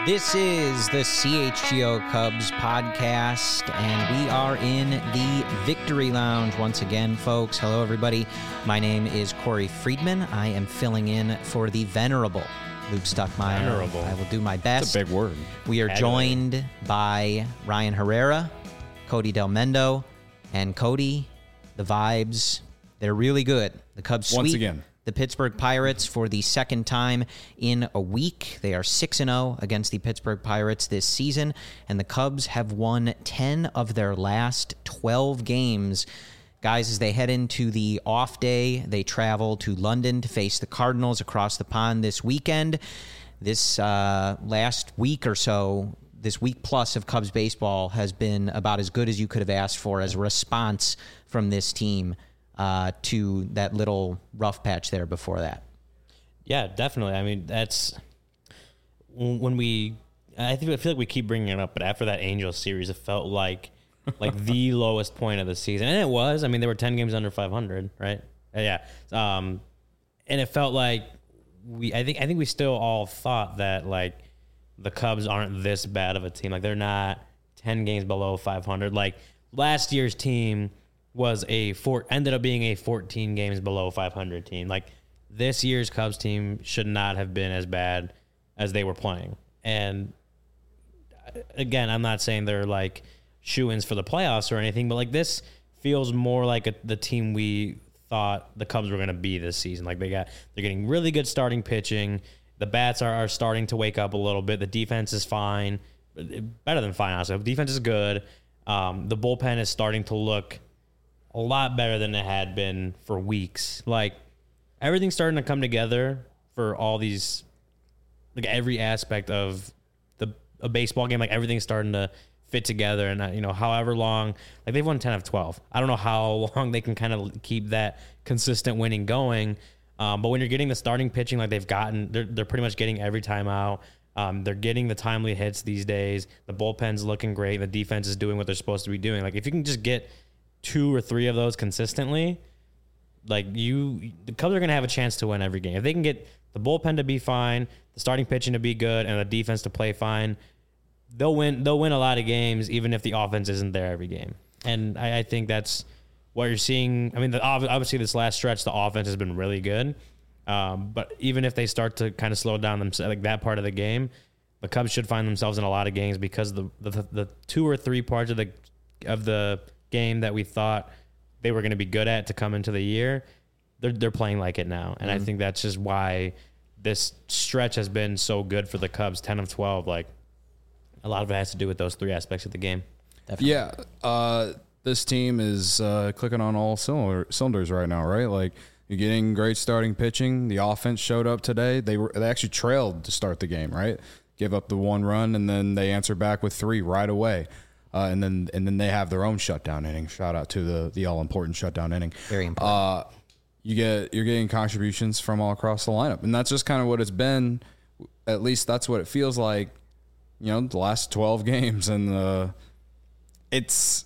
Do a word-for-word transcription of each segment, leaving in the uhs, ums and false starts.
This is the C H G O Cubs podcast, and we are in the Victory Lounge once again, folks. Hello, everybody. My name is Corey Friedman. I am filling in for the venerable Luke Stuckmeyer. Venerable. I will do my best. That's a big word. We are joined by Ryan Herrera, Cody Del Mendo, and Cody, the vibes, they're really good. The Cubs sweep Once again. the Pittsburgh Pirates for the second time in a week. They are six and oh against the Pittsburgh Pirates this season, and the Cubs have won ten of their last twelve games. Guys, as they head into the off day, they travel to London to face the Cardinals across the pond this weekend. This uh, last week or so, this week plus of Cubs baseball has been about as good as you could have asked for as a response from this team uh, to that little rough patch there before that. Yeah, definitely. I mean, that's when we, I think I feel like we keep bringing it up, but after that Angels series, it felt like like the lowest point of the season. And it was. I mean, they were ten games under five hundred, right? Yeah. Um, and it felt like we, I think, I think we still all thought that like the Cubs aren't this bad of a team. Like they're not ten games below five hundred. Like last year's team was a four, ended up being a fourteen games below five hundred team. Like this year's Cubs team should not have been as bad as they were playing. And again, I'm not saying they're like shoo-ins for the playoffs or anything, but like this feels more like a, the team we thought the Cubs were going to be this season. Like they got, they're getting really good starting pitching. The bats are, are starting to wake up a little bit. The defense is fine, better than fine, honestly. The defense is good. Um, the bullpen is starting to look a lot better than it had been for weeks. Like everything's starting to come together for all these, like every aspect of the a baseball game. Like everything's starting to fit together, and uh, you know, however long, like they've won ten of twelve. I don't know how long they can kind of keep that consistent winning going. Um, but when you're getting the starting pitching, like they've gotten, they're they're pretty much getting every time out. Um, they're getting the timely hits these days. The bullpen's looking great. The defense is doing what they're supposed to be doing. Like if you can just get two or three of those consistently, like you, the Cubs are going to have a chance to win every game. If they can get the bullpen to be fine, the starting pitching to be good, and the defense to play fine, they'll win. They'll win a lot of games, even if the offense isn't there every game. And I, I think that's what you're seeing. I mean, the, obviously this last stretch, the offense has been really good. Um, but even if they start to kind of slow down themselves, like that part of the game, the Cubs should find themselves in a lot of games because the the, the two or three parts of the of the game that we thought they were going to be good at to come into the year, they're they're playing like it now. And mm-hmm. I think that's just why this stretch has been so good for the Cubs, ten of twelve. Like a lot of it has to do with those three aspects of the game. Definitely. Yeah. Uh, this team is uh, clicking on all cylinder, cylinders right now, right? Like you're getting great starting pitching. The offense showed up today. They were they actually trailed to start the game, right? Give up the one run, and then they answer back with three right away. Uh, and then and then they have their own shutdown inning. Shout out to the the all important shutdown inning. Very important. Uh, you get you're getting contributions from all across the lineup, and that's just kind of what it's been. At least that's what it feels like. You know, the last twelve games, and the it's.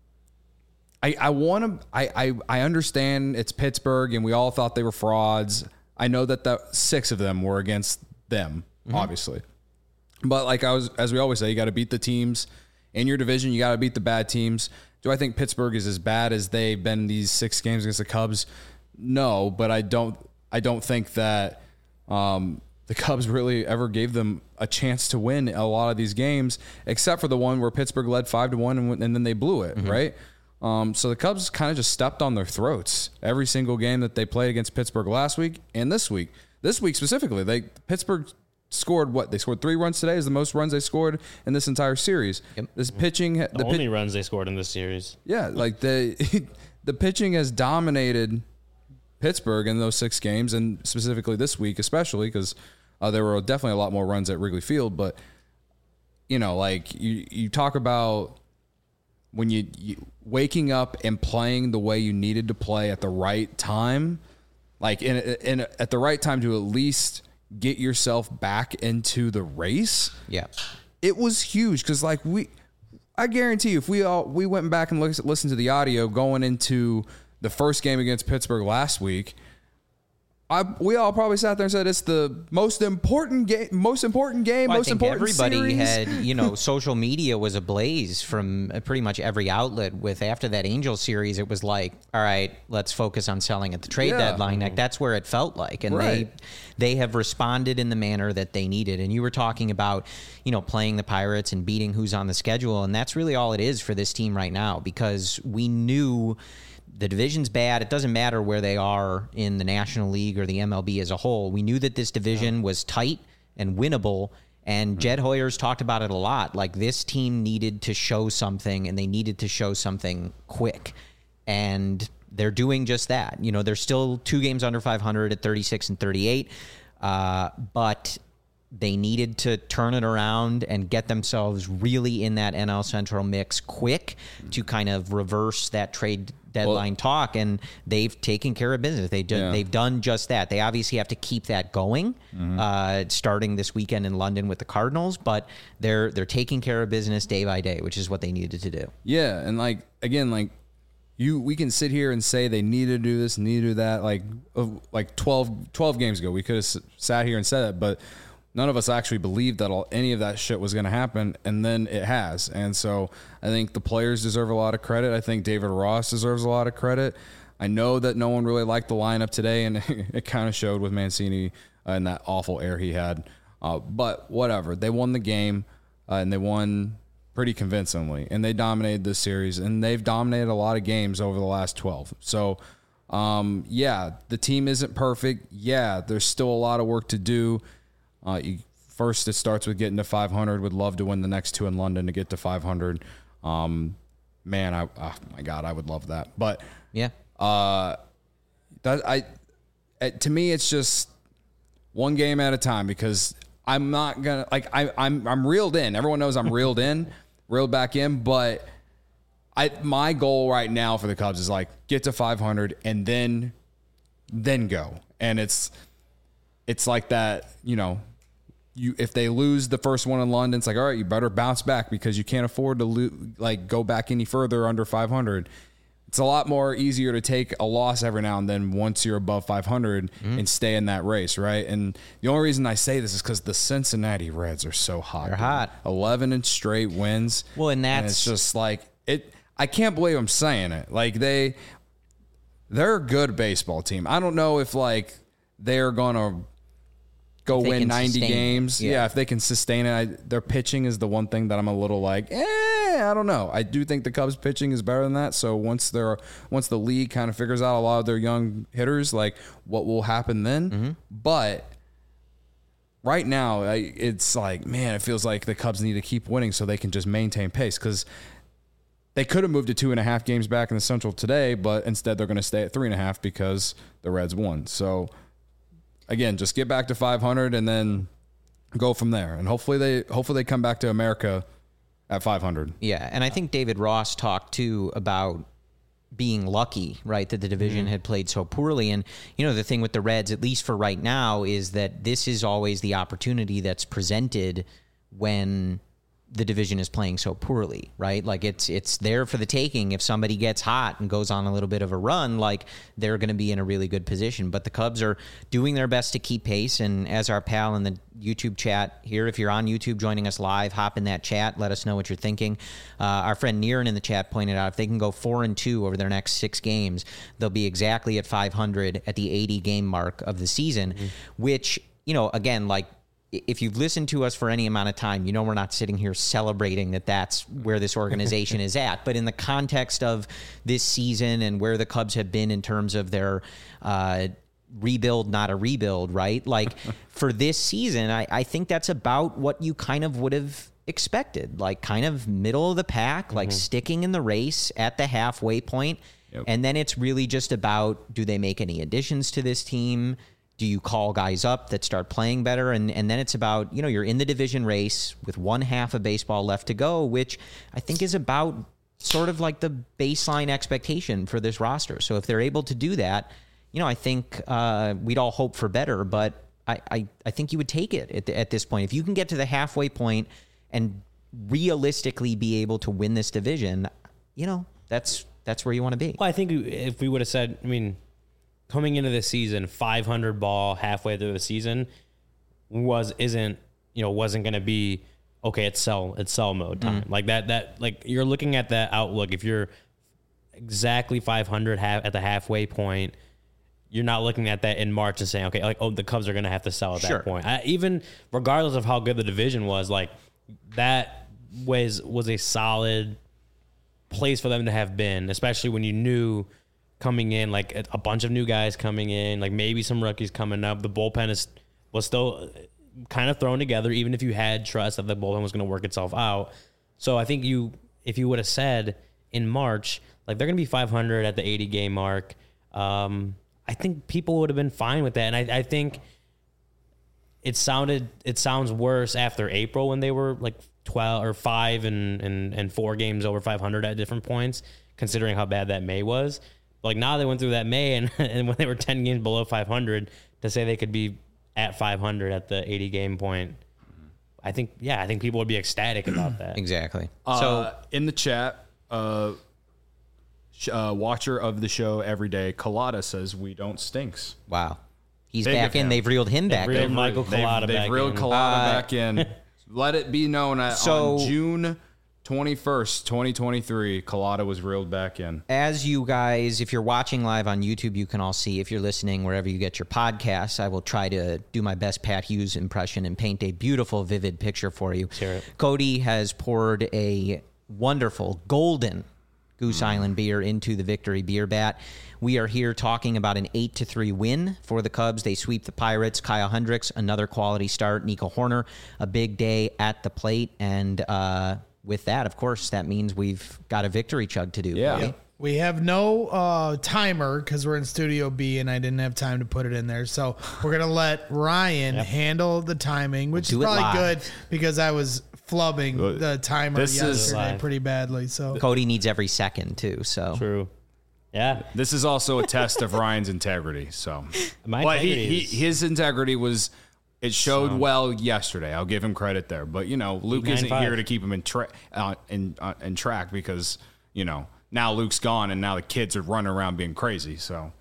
I I want to. I, I I understand it's Pittsburgh, and we all thought they were frauds. I know that the six of them were against them, mm-hmm. obviously, but like I was, as we always say, you got to beat the teams in your division. You got to beat the bad teams. Do I think Pittsburgh is as bad as they've been these six games against the Cubs? No, but I don't. I don't think that um, the Cubs really ever gave them a chance to win a lot of these games, except for the one where Pittsburgh led five to one, and, and then they blew it, mm-hmm. right? Um, so the Cubs kind of just stepped on their throats every single game that they played against Pittsburgh last week and this week. This week specifically, they Pittsburgh scored what? They scored three runs today. Is the most runs they scored in this entire series. Yep. This pitching, the, the only pit, runs they scored in this series. Yeah, like the the pitching has dominated Pittsburgh in those six games, and specifically this week, especially because uh, there were definitely a lot more runs at Wrigley Field. But you know, like you you talk about. When you, you waking up and playing the way you needed to play at the right time, like in, in at the right time to at least get yourself back into the race. Yeah, it was huge because like we, I guarantee you, if we all we went back and looked, listened to the audio going into the first game against Pittsburgh last week, I, we all probably sat there and said it's the most important game, most important game, well, most I think important everybody series. had, you know, social media was ablaze from pretty much every outlet. With after that Angels series, it was like, all right, let's focus on selling at the trade Yeah. deadline. Like that's where it felt like, and Right. they they have responded in the manner that they needed. And you were talking about, you know, playing the Pirates and beating who's on the schedule, and that's really all it is for this team right now, because we knew. The division's bad. It doesn't matter where they are in the National League or the M L B as a whole. We knew that this division was tight and winnable, and Jed Hoyer's talked about it a lot. Like, this team needed to show something, and they needed to show something quick. And they're doing just that. You know, they're still two games under five hundred at thirty-six and thirty-eight, uh, but they needed to turn it around and get themselves really in that N L Central mix quick to kind of reverse that trade deadline well, talk, and they've taken care of business. They did, yeah. They've done just that. They obviously have to keep that going, mm-hmm. uh, starting this weekend in London with the Cardinals, but they're they're taking care of business day by day, which is what they needed to do. Yeah, and like again, like you, we can sit here and say they need to do this, need to do that. Like uh, like twelve, twelve games ago, we could have s- sat here and said that, but none of us actually believed that all, any of that shit was going to happen, and then it has. And so I think the players deserve a lot of credit. I think David Ross deserves a lot of credit. I know that no one really liked the lineup today, and it kind of showed with Mancini uh, and that awful air he had. Uh, but whatever. They won the game, uh, and they won pretty convincingly, and they dominated this series, and they've dominated a lot of games over the last twelve. So, um, yeah, the team isn't perfect. Yeah, there's still a lot of work to do. Uh, you, first, it starts with getting to five hundred. Would love to win the next two in London to get to five hundred. Um, man, I oh my God, I would love that. But yeah, uh, that I it, to me, it's just one game at a time, because I'm not gonna like I I'm I'm reeled in. Everyone knows I'm reeled in, reeled back in. But I my goal right now for the Cubs is like get to five hundred and then then go. And it's it's like that, you know. You, if they lose the first one in London, it's like, all right, you better bounce back, because you can't afford to lo- like go back any further under five hundred. It's a lot more easier to take a loss every now and then once you're above five hundred mm-hmm. and stay in that race, right? And the only reason I say this is because the Cincinnati Reds are so hot. They're dude. hot. eleven and straight wins. Well, and that's and it's just like it. I can't believe I'm saying it. Like they, they're a good baseball team. I don't know if like they're gonna go win ninety games. Yeah. yeah, if they can sustain it. I, their pitching is the one thing that I'm a little like, eh, I don't know. I do think the Cubs pitching is better than that. So once they're once the league kind of figures out a lot of their young hitters, like what will happen then. Mm-hmm. But right now, I, it's like, man, it feels like the Cubs need to keep winning so they can just maintain pace, because they could have moved to two and a half games back in the Central today, but instead they're going to stay at three and a half because the Reds won. So again, just get back to five hundred and then go from there. And hopefully they hopefully they come back to America at five hundred. Yeah, and I think David Ross talked too about being lucky, right, that the division mm-hmm. had played so poorly. And, you know, the thing with the Reds, at least for right now, is that this is always the opportunity that's presented when the division is playing so poorly, right? Like it's it's there for the taking. If somebody gets hot and goes on a little bit of a run, like they're going to be in a really good position. But the Cubs are doing their best to keep pace. And as our pal in the YouTube chat here, if you're on YouTube joining us live, hop in that chat. Let us know what you're thinking. Uh, our friend Niren in the chat pointed out if they can go four and two over their next six games, they'll be exactly at five hundred at the eighty game mark of the season, mm-hmm. which, you know, again, like, if you've listened to us for any amount of time, you know we're not sitting here celebrating that that's where this organization is at. But in the context of this season and where the Cubs have been in terms of their uh, rebuild, not a rebuild, right? Like for this season, I, I think that's about what you kind of would have expected, like kind of middle of the pack, mm-hmm. like sticking in the race at the halfway point. Yep. And then it's really just about, do they make any additions to this team? Do you call guys up that start playing better? And and then it's about, you know, you're in the division race with one half of baseball left to go, which I think is about sort of like the baseline expectation for this roster. So if they're able to do that, you know, I think uh, we'd all hope for better, but I, I, I think you would take it at, the, at this point. If you can get to the halfway point and realistically be able to win this division, you know, that's that's where you want to be. Well, I think if we would have said, I mean, coming into the season, five hundred ball halfway through the season was isn't you know wasn't going to be okay. It's sell it's sell mode time mm. like that. That like you're looking at that outlook. If you're exactly five hundred half at the halfway point, you're not looking at that in March and saying, okay, like oh the Cubs are going to have to sell at sure. that point. I, even regardless of how good the division was, like that was was a solid place for them to have been, especially when you knew. Coming in, like a bunch of new guys coming in, like maybe some rookies coming up. The bullpen is was still kind of thrown together, even if you had trust that the bullpen was going to work itself out. So I think you, if you would have said in March, like they're going to be five hundred at the eighty game mark, um, I think people would have been fine with that. And I, I think it sounded, it sounds worse after April when they were like twelve or five and and and four games over five hundred at different points, considering how bad that May was. Like now they went through that May and, and when they were ten games below five hundred to say they could be at five hundred at the eighty game point. I think, yeah, I think people would be ecstatic about that. Exactly. Uh, so in the chat, uh, sh- uh, watcher of the show every day, Collada says we don't stinks. Wow. He's Big back in. him. They've reeled him They've back reeled in. Michael Collada they've, back they've reeled in. Collada Uh, back in. Let it be known that so, on June twenty-first, twenty twenty-three, Collada was reeled back in. As you guys, if you're watching live on YouTube, you can all see. If you're listening wherever you get your podcasts, I will try to do my best Pat Hughes impression and paint a beautiful, vivid picture for you. Sure. Cody has poured a wonderful, golden Goose mm. Island beer into the Victory Beer Bat. We are here talking about an eight to three win for the Cubs. They sweep the Pirates. Kyle Hendricks, another quality start. Nico Horner, a big day at the plate. And, uh, with that, of course, that means we've got a victory chug to do. Yeah. Cody. We have no uh, timer because we're in Studio B and I didn't have time to put it in there. So we're going to let Ryan yep. handle the timing, which we'll is probably good because I was flubbing the timer this yesterday pretty badly. So Cody needs every second, too. So True. Yeah. This is also a test of Ryan's integrity. So My but he, integrity he, is- his integrity was... It showed well yesterday. I'll give him credit there. But, you know, Luke nine isn't five. here to keep him in, tra- uh, in, uh, in track because, you know, now Luke's gone and now the kids are running around being crazy. So,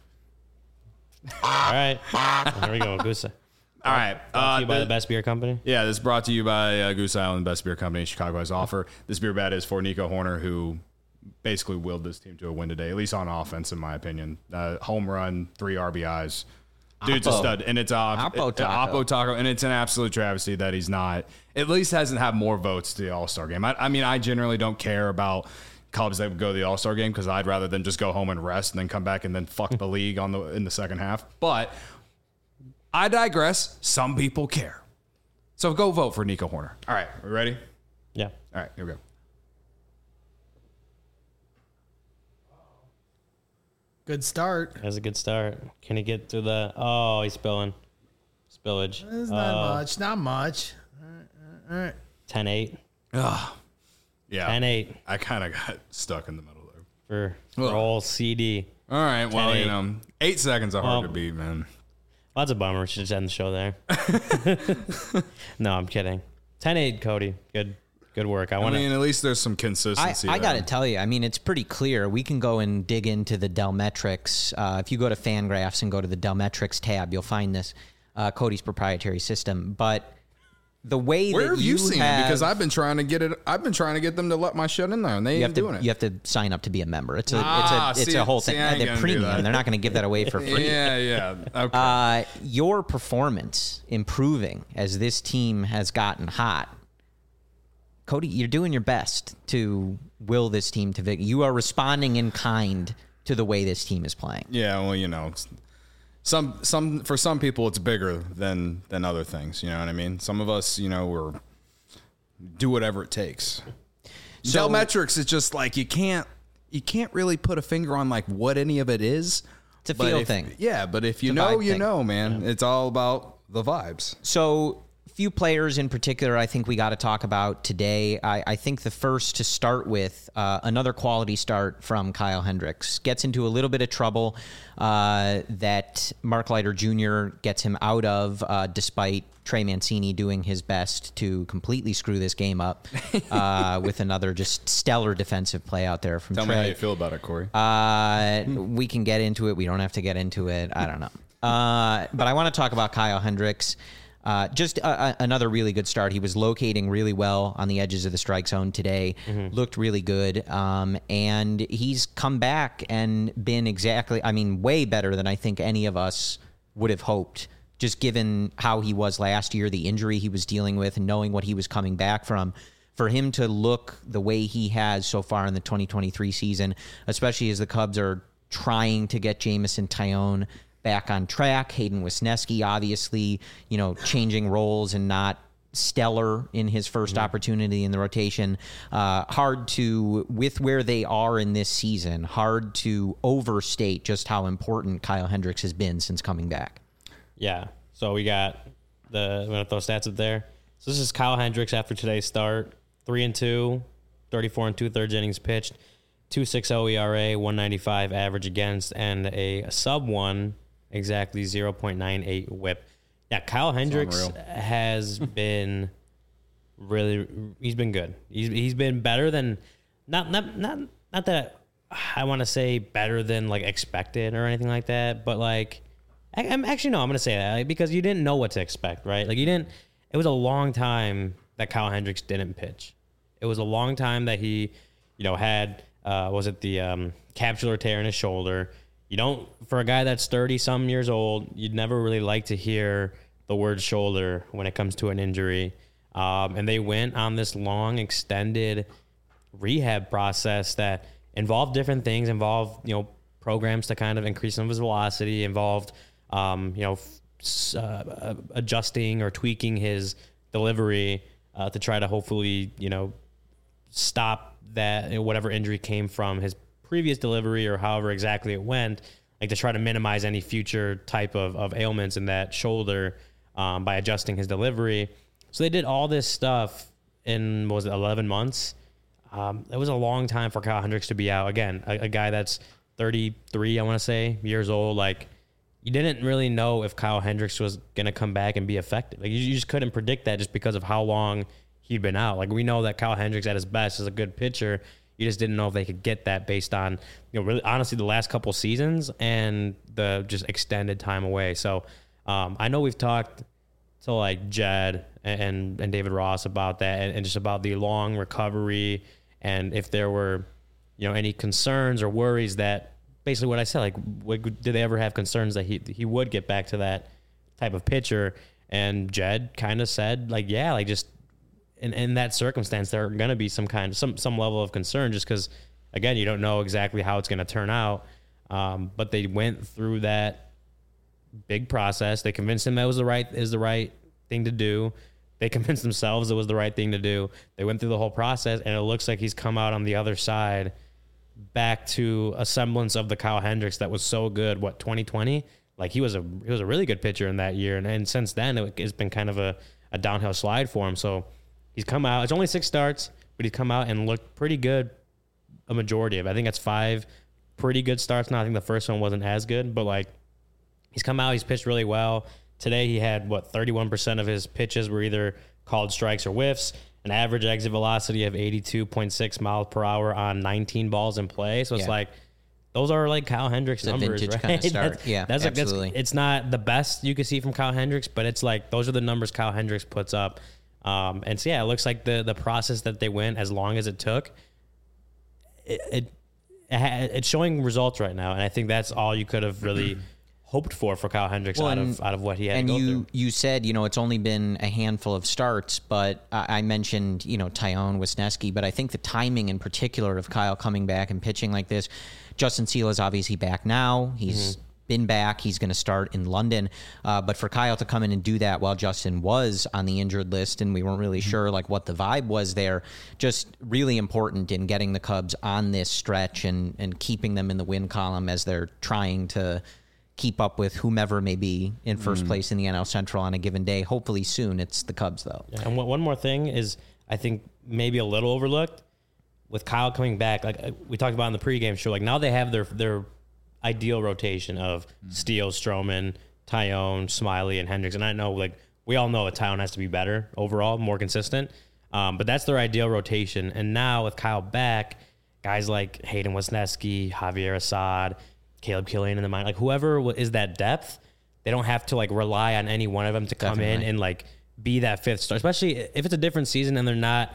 All right. Here we go, Goose. all right. Brought to you by Uh, the Best Beer Company. yeah, this is brought to you by uh, Goose Island, Best Beer Company, Chicago's offer. This beer bat is for Nico Horner, who basically willed this team to a win today, at least on offense, in my opinion. Uh, home run, three R B Is. Dude's a Oppo. stud, and it's uh, Oppo it- Taco. Oppo Taco, and it's an absolute travesty that he's not, at least hasn't had more votes to the All-Star game. I, I mean, I generally don't care about Cubs that would go to the All-Star game because I'd rather than just go home and rest and then come back and then fuck the league on the in the second half. But I digress. Some people care. So go vote for Nico Horner. All right, we ready? Yeah. All right, here we go. good start. That's a good start. Can he get through the... Oh, he's spilling. Spillage. It's not Oh, much. Not much. All right. All right. ten eight. Ugh. Yeah. ten eight I kind of got stuck in the middle there. for, for Ugh. old C D. All right, well, ten eight. you know, eight seconds are hard Well, to beat, man. Well, that's a bummer. We should just end the show there. No, I'm kidding. ten eight, Cody. Good good work. I I want to... mean, at least there's some I, consistency. I got to there. tell you, I mean, it's pretty clear. We can go and dig into the Delmetrics. Uh, if you go to Fangraphs and go to the Delmetrics tab, you'll find this, uh, Cody's proprietary system. But the way Where that have you, seen have, it? Because I've been trying to get it. I've been trying to get them to let my shit in there, and they you ain't have to doing it. you have to sign up to be a member. It's a Ah, it's a it's see, a whole see, thing. I ain't They're gonna do premium. that. They're not going to give that away for free. Yeah, yeah. Okay. Uh, your performance improving as this team has gotten hot. Cody, you're doing your best to will this team to victory. You are responding in kind to the way this team is playing. yeah, well, you know, it's- some some for some people it's bigger than than other things. You know what I mean? Some of us, you know, we're do whatever it takes. So- Delmetrics is just like you can't you can't really put a finger on like what any of it is. It's a But feel if- thing. Yeah, but if you It's a know, vibe you thing. know, man. It's all about the vibes. So few players in particular I think we got to talk about today. I, I think the first to start with, uh, another quality start from Kyle Hendricks. Gets into a little bit of trouble uh, that Mark Leiter Junior gets him out of, uh, despite Trey Mancini doing his best to completely screw this game up uh, with another just stellar defensive play out there from Tell Trey. me how you feel about it, Corey. Uh, we can get into it. We don't have to get into it. I don't know. Uh, but I want to talk about Kyle Hendricks. Uh, just a, a, another really good start. He was locating really well on the edges of the strike zone today. Mm-hmm. Looked really good. Um, and he's come back and been exactly, I mean, way better than I think any of us would have hoped, just given how he was last year, the injury he was dealing with, and knowing what he was coming back from. For him to look the way he has so far in the twenty twenty-three season, especially as the Cubs are trying to get Jameson Taillon back on track. Hayden Wesneski, obviously, you know, changing roles and not stellar in his first mm-hmm. opportunity in the rotation. Uh, hard to, with where they are in this season, hard to overstate just how important Kyle Hendricks has been since coming back. Yeah. So we got the, I'm going to throw stats up there. So this is Kyle Hendricks after today's start. Three and two, thirty-four and two thirds innings pitched, two point six oh E R A, one ninety-five average against, and a sub one, exactly zero point nine eight whip. Yeah, Kyle Hendricks has been really, he's been good. He's he's been better than, not not not not that I want to say better than like expected or anything like that, but like, I, I'm actually no, I'm gonna say that like, because you didn't know what to expect, right? Like you didn't. It was a long time that Kyle Hendricks didn't pitch. It was a long time that he, you know, had uh, was it the um, capsular tear in his shoulder. You don't, for a guy that's thirty some years old, you'd never really like to hear the word shoulder when it comes to an injury. Um, and they went on this long, extended rehab process that involved different things, involved, you know, programs to kind of increase some of his velocity, involved, um, you know, uh, adjusting or tweaking his delivery uh, to try to hopefully, you know, stop that, you know, whatever injury came from his previous delivery or however exactly it went, like to try to minimize any future type of, of ailments in that shoulder um, by adjusting his delivery. So they did all this stuff in, what was it, eleven months? Um, it was a long time for Kyle Hendricks to be out. Again, a, a guy that's thirty-three, I want to say, years old. Like, you didn't really know if Kyle Hendricks was going to come back and be effective. Like, you, you just couldn't predict that just because of how long he'd been out. Like, we know that Kyle Hendricks at his best is a good pitcher. You just didn't know if they could get that based on, you know, really honestly the last couple seasons and the just extended time away. So um, I know we've talked to like Jed and and David Ross about that and, and just about the long recovery and if there were, you know, any concerns or worries that basically what I said, like, what, did they ever have concerns that he he would get back to that type of pitcher? And Jed kind of said, like, yeah, like just. In, in that circumstance, there are going to be some kind of some some level of concern, just because, again, you don't know exactly how it's going to turn out. Um, but they went through that big process. They convinced him that was the right is the right thing to do. They convinced themselves it was the right thing to do. They went through the whole process, and it looks like he's come out on the other side, back to a semblance of the Kyle Hendricks that was so good. What, twenty twenty? Like he was a he was a really good pitcher in that year, and, and since then it, it's been kind of a, a downhill slide for him. So. He's come out. It's only six starts, but he's come out and looked pretty good a majority of it. I think that's five pretty good starts now. I think the first one wasn't as good, but, like, he's come out. He's pitched really well. Today he had, what, thirty-one percent of his pitches were either called strikes or whiffs, an average exit velocity of eighty-two point six miles per hour on nineteen balls in play. So it's yeah. like, those are like Kyle Hendricks it's numbers, right? Kind of start. that's, yeah, that's absolutely. Like, that's, it's not the best you can see from Kyle Hendricks, but it's like those are the numbers Kyle Hendricks puts up. Um, and so, yeah, it looks like the, the process that they went, as long as it took, it, it, it it's showing results right now. And I think that's all you could have really hoped for for Kyle Hendricks well, out and, of out of what he had and to go you, through. you said, you know, it's only been a handful of starts, but I, I mentioned, you know, Taillon, Wesneski, but I think the timing in particular of Kyle coming back and pitching like this, Justin Seal is obviously back now. He's mm-hmm. been back. He's going to start in London. Uh, but for Kyle to come in and do that while Justin was on the injured list and we weren't really mm-hmm. sure like what the vibe was there, just really important in getting the Cubs on this stretch and, and keeping them in the win column as they're trying to keep up with whomever may be in first mm. place in the N L Central on a given day. Hopefully soon it's the Cubs, though. Yeah, and one more thing is, I think maybe a little overlooked with Kyle coming back. Like we talked about in the pregame show, like now they have their their ideal rotation of mm. Steele, Stroman, Tyone, Smiley, and Hendricks. And I know, like we all know that Tyone has to be better overall, more consistent. Um, but that's their ideal rotation. And now with Kyle back, guys like Hayden Wesneski, Javier Assad, Caleb Killian in the mind, like whoever is that depth, they don't have to like rely on any one of them to come Definitely. in and like be that fifth star, especially if it's a different season and they're not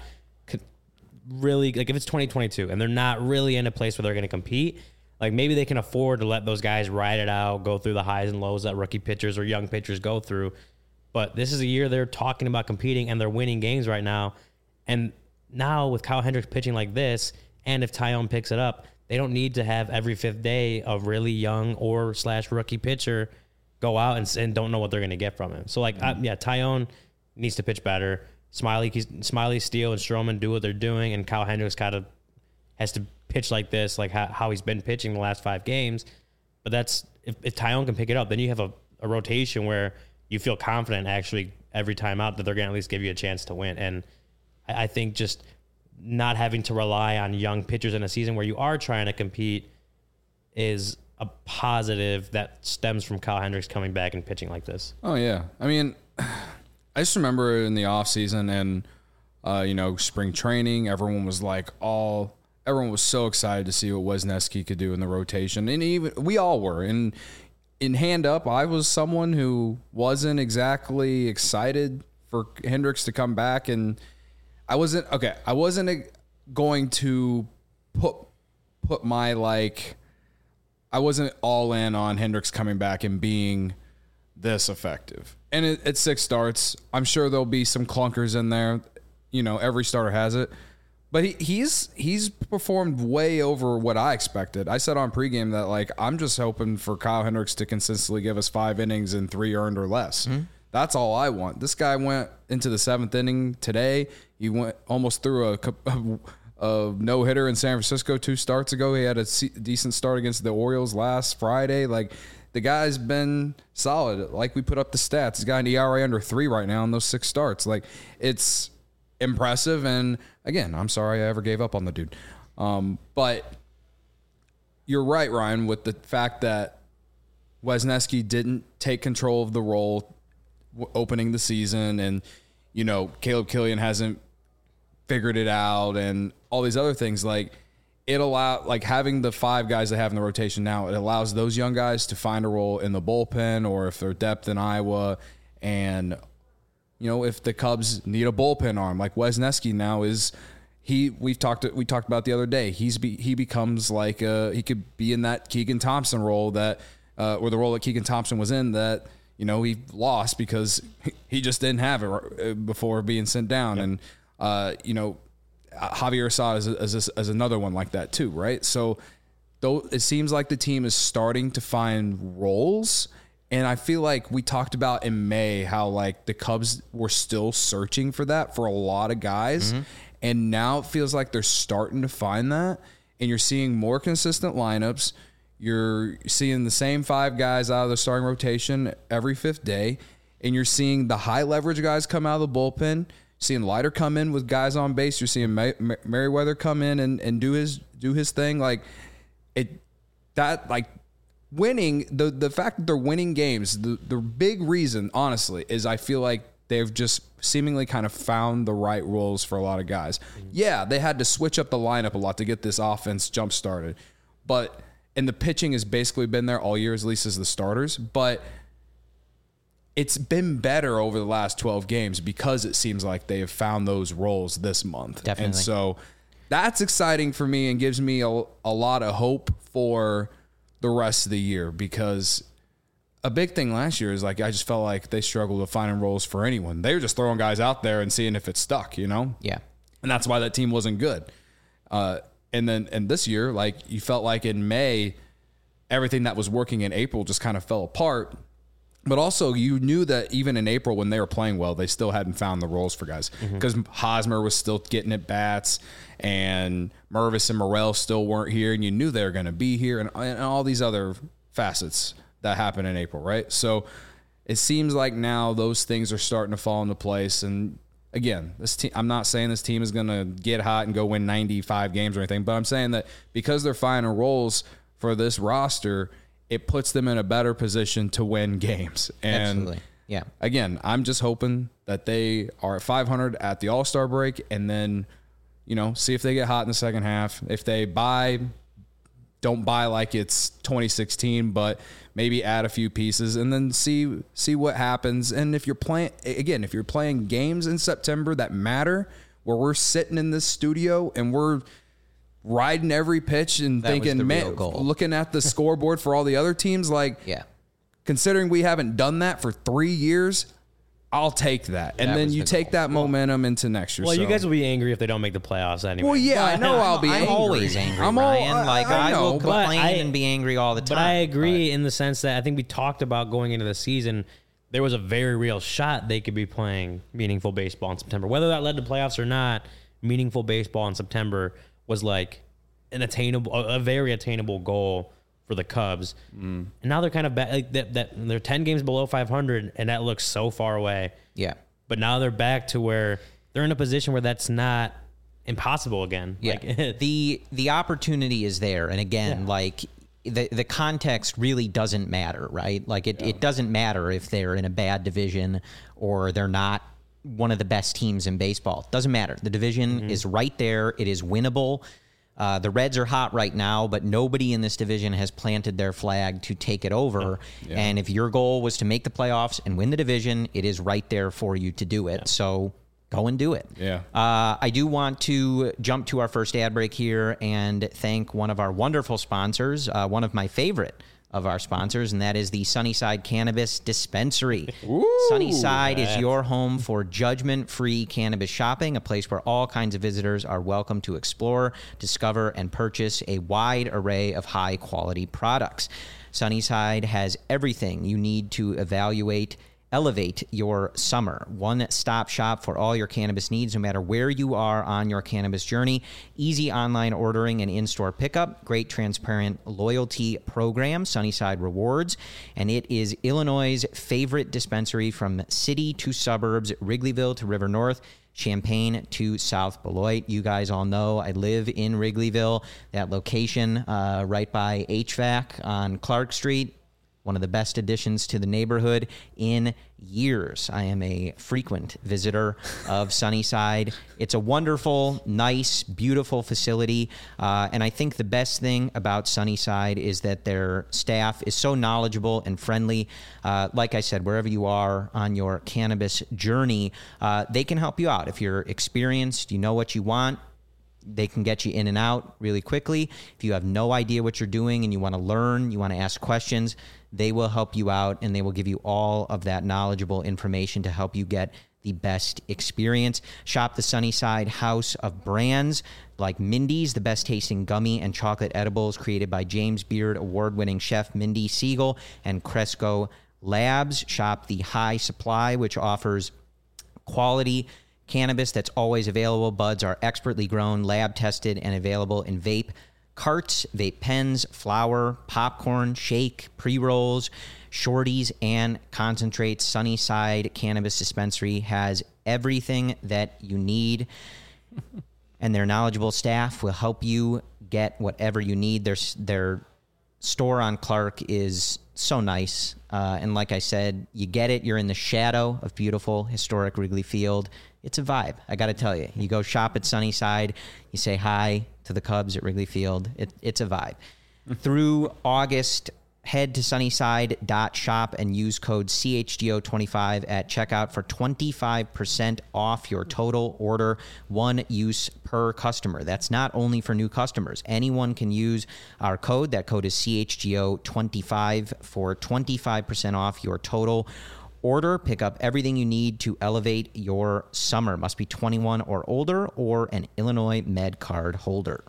really like if it's twenty twenty-two and they're not really in a place where they're going to compete. Like maybe they can afford to let those guys ride it out, go through the highs and lows that rookie pitchers or young pitchers go through. But this is a year they're talking about competing and they're winning games right now. And now with Kyle Hendricks pitching like this, and if Tyone picks it up, they don't need to have every fifth day a really young or slash rookie pitcher go out and, and don't know what they're going to get from him. So, like, mm-hmm. I, yeah, Tyone needs to pitch better. Smiley, Smiley, Steele, and Stroman do what they're doing, and Kyle Hendricks kind of has to pitch like this, like how, how he's been pitching the last five games. But that's if, if Tyone can pick it up, then you have a, a rotation where you feel confident actually every time out that they're going to at least give you a chance to win. And I, I think just not having to rely on young pitchers in a season where you are trying to compete is a positive that stems from Kyle Hendricks coming back and pitching like this. Oh, yeah. I mean, I just remember in the offseason and, uh, you know, spring training, everyone was like all – everyone was so excited to see what Wesneski could do in the rotation. And even we all were. And in hand up, I was someone who wasn't exactly excited for Hendricks to come back and – I wasn't okay. I wasn't going to put put my like. I wasn't all in on Hendricks coming back and being this effective. And it, it's six starts. I'm sure there'll be some clunkers in there. You know, every starter has it. But he, he's he's performed way over what I expected. I said on pregame that like I'm just hoping for Kyle Hendricks to consistently give us five innings and three earned or less. Mm-hmm. That's all I want. This guy went into the seventh inning today. He went almost threw a, a, a no-hitter in San Francisco two starts ago. He had a decent start against the Orioles last Friday. Like, the guy's been solid. Like, we put up the stats. He's got an E R A under three right now in those six starts. Like, it's impressive. And, again, I'm sorry I ever gave up on the dude. Um, but you're right, Ryan, with the fact that Wesneski didn't take control of the role opening the season, and you know Caleb Killian hasn't figured it out, and all these other things. Like it allow like having the five guys they have in the rotation now, it allows those young guys to find a role in the bullpen, or if they're depth in Iowa, and you know if the Cubs need a bullpen arm, like Wesneski now is. He we've talked we talked about the other day. He's be, he becomes like a, he could be in that Keegan Thompson role that uh, or the role that Keegan Thompson was in that. You know, he lost because he just didn't have it before being sent down. Yep. And, uh, you know, Javier Assad is, is, is another one like that too, right? So though it seems like the team is starting to find roles. And I feel like we talked about in May how, like, the Cubs were still searching for that for a lot of guys. Mm-hmm. And now it feels like they're starting to find that. And you're seeing more consistent lineups. You're seeing the same five guys out of the starting rotation every fifth day, and you're seeing the high leverage guys come out of the bullpen. You're seeing Leiter come in with guys on base. You're seeing May- May- Merriweather come in and, and do his do his thing. Like it, that like winning the the fact that they're winning games. The the big reason, honestly, is I feel like they've just seemingly kind of found the right roles for a lot of guys. Mm-hmm. Yeah, they had to switch up the lineup a lot to get this offense jump started, but. And the pitching has basically been there all year, at least as the starters. But it's been better over the last twelve games because it seems like they have found those roles this month. Definitely. And so that's exciting for me and gives me a, a lot of hope for the rest of the year, because a big thing last year is like I just felt like they struggled with finding roles for anyone. They were just throwing guys out there and seeing if it stuck, you know? Yeah. And that's why that team wasn't good. Uh And then and this year, like you felt like in May, everything that was working in April just kind of fell apart. But also you knew that even in April when they were playing well, they still hadn't found the roles for guys. Because mm-hmm. Hosmer was still getting at bats and Mervis and Morel still weren't here. And you knew they were going to be here and, and all these other facets that happened in April, right? So it seems like now those things are starting to fall into place. And again, this team, I'm not saying this team is going to get hot and go win ninety-five games or anything, but I'm saying that because they're finding roles for this roster, it puts them in a better position to win games. And Absolutely. Yeah. Again, I'm just hoping that they are at five hundred at the All-Star break, and then, you know, see if they get hot in the second half. If they buy, don't buy like it's twenty sixteen, but maybe add a few pieces and then see see what happens. And if you're playing, again, if you're playing games in September that matter, where we're sitting in this studio and we're riding every pitch and That was the thinking, real man, goal. looking at the scoreboard for all the other teams, like, Yeah. considering we haven't done that for three years, I'll take that. And That then was you the take goal. that momentum into next year. Well, you So- guys will be angry if they don't make the playoffs anyway. Well, yeah, I know I'll be I'm angry. always angry, I'm all- Ryan. like, I, know, will but complain I- and be angry all the time. But I agree in the sense that I think we talked about going into the season, there was a very real shot they could be playing meaningful baseball in September. Whether that led to playoffs or not, meaningful baseball in September was like an attainable, a very attainable goal for the Cubs. Mm. And now they're kind of back, like that, that they're ten games below five hundred, and that looks so far away. Yeah. But now they're back to where they're in a position where that's not impossible again. Yeah. Like, the the opportunity is there, and again, Yeah. like the the context really doesn't matter, right? Like it, it doesn't matter if they're in a bad division or they're not one of the best teams in baseball. It doesn't matter. The division Mm-hmm. is right there. It is winnable. Uh, the Reds are hot right now, but nobody in this division has planted their flag to take it over. Yeah. And if your goal was to make the playoffs and win the division, it is right there for you to do it. So go and do it. Yeah. Uh, I do want to jump to our first ad break here and thank one of our wonderful sponsors, uh, one of my favorite of our sponsors, and that is the Sunnyside Cannabis Dispensary. Sunnyside is your home for judgment-free cannabis shopping, a place where all kinds of visitors are welcome to explore, discover, and purchase a wide array of high-quality products. Sunnyside has everything you need to evaluate Elevate your summer. One-stop shop for all your cannabis needs, no matter where you are on your cannabis journey. Easy online ordering and in-store pickup. Great transparent loyalty program, Sunnyside Rewards. And it is Illinois' favorite dispensary from city to suburbs, Wrigleyville to River North, Champaign to South Beloit. You guys all know I live in Wrigleyville, that location uh, right by H V A C on Clark Street. One of the best additions to the neighborhood in years. I am a frequent visitor of Sunnyside. It's a wonderful, nice, beautiful facility. Uh, and I think the best thing about Sunnyside is that their staff is so knowledgeable and friendly. Uh, like I said, wherever you are on your cannabis journey, uh, they can help you out. If you're experienced, you know what you want, they can get you in and out really quickly. If you have no idea what you're doing and you want to learn, you want to ask questions, they will help you out, and they will give you all of that knowledgeable information to help you get the best experience. Shop the Sunnyside House of Brands like Mindy's, the best tasting gummy and chocolate edibles created by James Beard award-winning chef Mindy Siegel and Cresco Labs. Shop the High Supply, which offers quality cannabis that's always available. Buds are expertly grown, lab tested, and available in vape carts, vape pens, flour, popcorn, shake, pre-rolls, shorties, and concentrates. Sunnyside Cannabis Dispensary has everything that you need, and their knowledgeable staff will help you get whatever you need. Their, their store on Clark is so nice, uh, and like I said, you get it. You're in the shadow of beautiful, historic Wrigley Field. It's a vibe, I got to tell you. You go shop at Sunnyside, you say hi to the Cubs at Wrigley Field. It, it's a vibe. Through August, head to sunnyside dot shop and use code C H G O twenty-five at checkout for twenty-five percent off your total order, one use per customer. That's not only for new customers. Anyone can use our code. That code is C H G O twenty-five for twenty-five percent off your total order. Pick up everything you need to elevate your summer. Must be twenty-one or older or an Illinois Med card holder.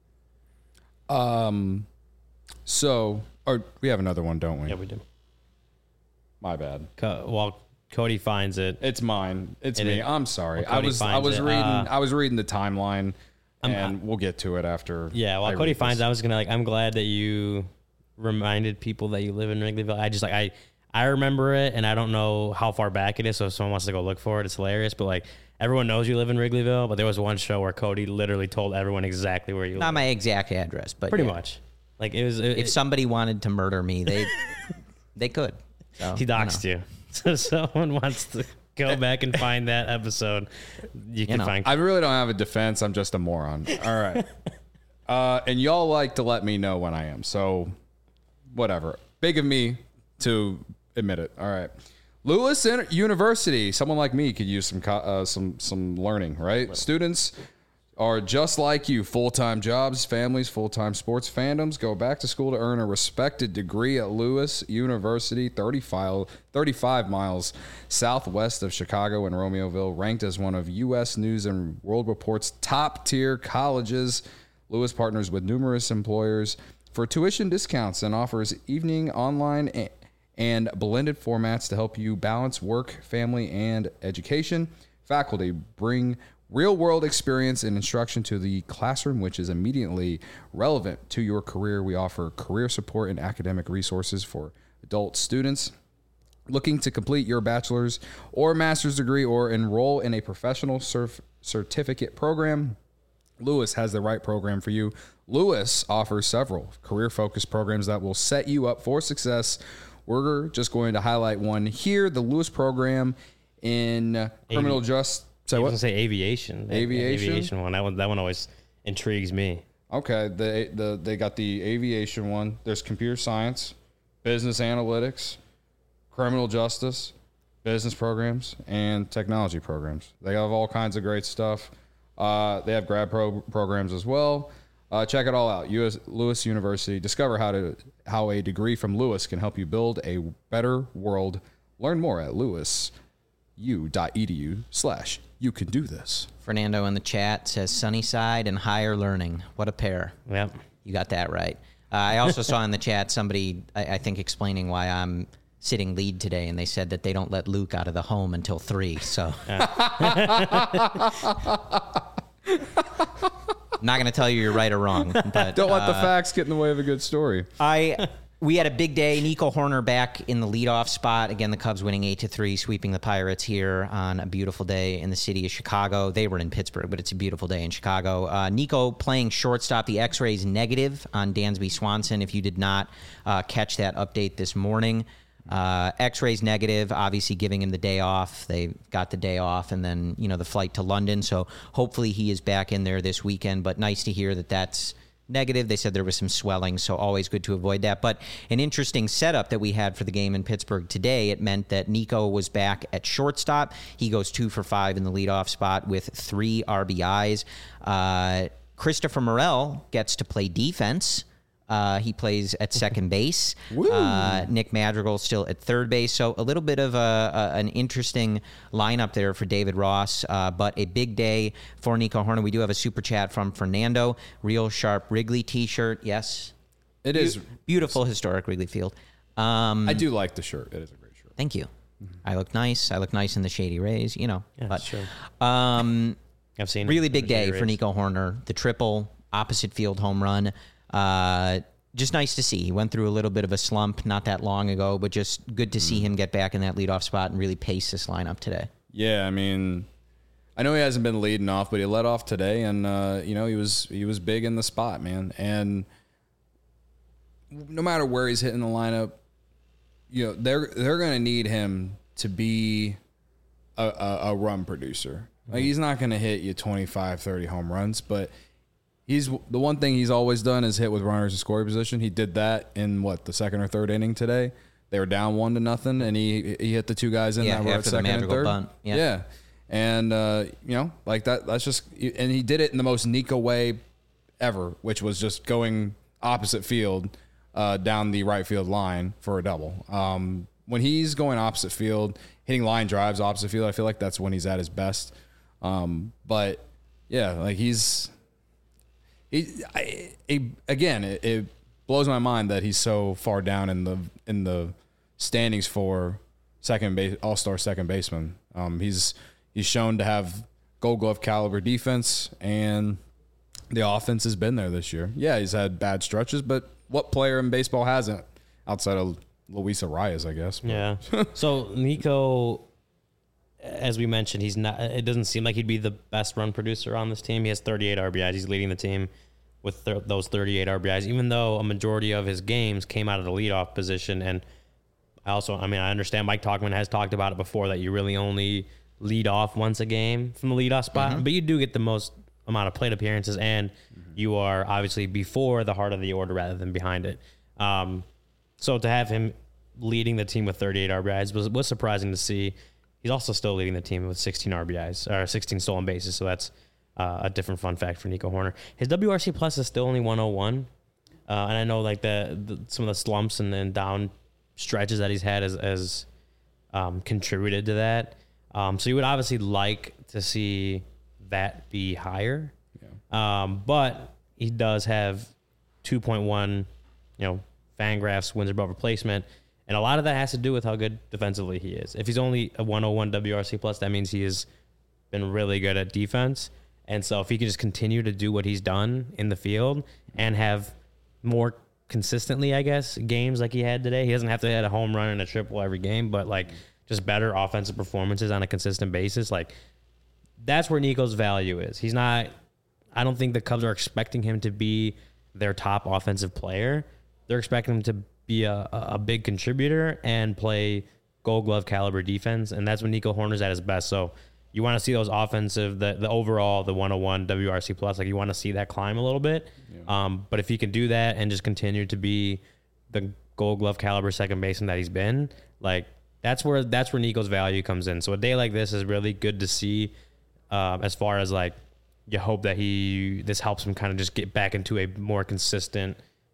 Um, so, or we have another one, don't we? Yeah, we do. My bad. Co- while Cody finds it, It's mine. It's It me. is- I'm sorry. Well, I Cody was I finds was it. reading Uh, I was reading the timeline, I'm- and we'll get to it after. yeah. While I Cody read finds, this. I was gonna like. I'm glad that you reminded people that you live in Wrigleyville. I just like I I remember it, and I don't know how far back it is. So if someone wants to go look for it, it's hilarious. But like everyone knows you live in Wrigleyville. But there was one show where Cody literally told everyone exactly where you Not live. my exact address, but Pretty yeah. much. Like it was. It, If somebody wanted to murder me, they they could. So, he doxed you. So if someone wants to go back and find that episode, you can know. find. I really don't have a defense. I'm just a moron. All right. Uh, and y'all like to let me know when I am. So whatever. Big of me to admit it. All right. Lewis University. Someone like me could use some co- uh, some some learning, right? Students are just like you. Full-time jobs, families, full-time sports fandoms. Go back to school to earn a respected degree at Lewis University, thirty-five, thirty-five miles southwest of Chicago and Romeoville, ranked as one of U S News and World Report's top-tier colleges. Lewis partners with numerous employers for tuition discounts and offers evening, online, and and blended formats to help you balance work, family, and education. Faculty bring real-world experience and instruction to the classroom, which is immediately relevant to your career. We offer career support and academic resources for adult students looking to complete your bachelor's or master's degree or enroll in a professional cerf- certificate program. Lewis has the right program for you. Lewis offers several career-focused programs that will set you up for success. We're just going to highlight one here, the Lewis program in criminal justice. I was gonna say aviation. Aviation? Aviation one. That one. That one always intrigues me. Okay, the the they got the aviation one. There's computer science, business analytics, criminal justice, business programs, and technology programs. They have all kinds of great stuff. Uh, they have grad pro- programs as well. Uh, check it all out. U S Lewis University. Discover how to how a degree from Lewis can help you build a better world. Learn more at lewisu dot e d u slash you can do this. Fernando in the chat says Sunnyside and higher learning. What a pair. Yep. You got that right. Uh, I also saw in the chat somebody, I, I think, explaining why I'm sitting lead today, and they said that they don't let Luke out of the home until three. So, I'm not going to tell you you're right or wrong, but Don't let the uh, facts get in the way of a good story. I we had a big day. Nico Horner back in the leadoff spot. Again, the Cubs winning eight to three, sweeping the Pirates here on a beautiful day in the city of Chicago. They were in Pittsburgh, but it's a beautiful day in Chicago. Uh, Nico playing shortstop. The X-rays negative on Dansby Swanson. If you did not uh, catch that update this morning, uh, X-rays negative. Obviously, giving him the day off. They got the day off, and then you know the flight to London. So hopefully he is back in there this weekend. But nice to hear that that's negative. They said there was some swelling, so always good to avoid that. But an interesting setup that we had for the game in Pittsburgh today. It meant that Nico was back at shortstop. He goes two for five in the leadoff spot with three R B Is. Uh, Christopher Morel gets to play defense. Uh, he plays at second base. Uh, Nick Madrigal still at third base. So a little bit of a, a, an interesting lineup there for David Ross, uh, but a big day for Nico Horner. We do have a super chat from Fernando. Real sharp Wrigley t-shirt. Yes. It Be- is. beautiful historic Wrigley Field. Um, I do like the shirt. It is a great shirt. Thank you. I look nice. I look nice in the Shady Rays, you know. Yeah, but, sure. Um, I've seen really it. big day Rays. for Nico Horner. The triple opposite field home run. Uh, just nice to see. He went through a little bit of a slump not that long ago, but just good to see him get back in that leadoff spot and really pace this lineup today. Yeah, I mean, I know he hasn't been leading off, but he led off today, and uh, you know he was he was big in the spot, man. And no matter where he's hitting the lineup, you know they're they're going to need him to be a, a, a run producer. Like he's not going to hit you twenty-five, thirty home runs, but he's the one thing he's always done is hit with runners in scoring position. He did that in what the second or third inning today. They were down one to nothing, and he he hit the two guys in Yeah, that were at after the second and Madrigal third. bunt. Yeah. yeah, and uh, you know like that. That's just and he did it in the most Nico way ever, which was just going opposite field uh, down the right field line for a double. Um, when he's going opposite field, hitting line drives opposite field, I feel like that's when he's at his best. Um, but yeah, like he's. He, I, he, again, it, it blows my mind that he's so far down in the in the standings for second base, all-star second baseman. Um, he's he's shown to have Gold Glove caliber defense, and the offense has been there this year. Yeah, he's had bad stretches, but what player in baseball hasn't outside of Luis Arias, I guess. But. Yeah. So Nico, as we mentioned, he's not. It doesn't seem like he'd be the best run producer on this team. He has thirty-eight R B Is. He's leading the team with th- those thirty-eight R B Is, even though a majority of his games came out of the leadoff position. And I also, I mean, I understand Mike Tauchman has talked about it before that you really only lead off once a game from the leadoff spot, mm-hmm. but you do get the most amount of plate appearances, and mm-hmm. you are obviously before the heart of the order rather than behind it. Um, so to have him leading the team with thirty-eight R B Is was, was surprising to see. He's also still leading the team with sixteen R B Is, or sixteen stolen bases, so that's uh, a different fun fact for Nico Hoerner. His W R C plus is still only one oh one, uh, and I know like the, the some of the slumps and then down stretches that he's had has, has um, contributed to that. Um, so you would obviously like to see that be higher, yeah. um, but he does have two point one, you know, Fangraphs wins above replacement, and a lot of that has to do with how good defensively he is. If he's only a one oh one W R C plus, that means he has been really good at defense, and so if he can just continue to do what he's done in the field and have more consistently, I guess, games like he had today, he doesn't have to hit a home run and a triple every game, but like just better offensive performances on a consistent basis. Like that's where Nico's value is. He's not, I don't think the Cubs are expecting him to be their top offensive player. They're expecting him to be a, a big contributor and play Gold Glove caliber defense. And that's when Nico Hoerner's at his best. So you want to see those offensive, the, the overall, the one oh one W R C plus, like you want to see that climb a little bit. Yeah. Um, but if he can do that and just continue to be the Gold Glove caliber second baseman that he's been, like, That's where that's where Nico's value comes in. So a day like this is really good to see, um, as far as like you hope that he this helps him kind of just get back into a more consistent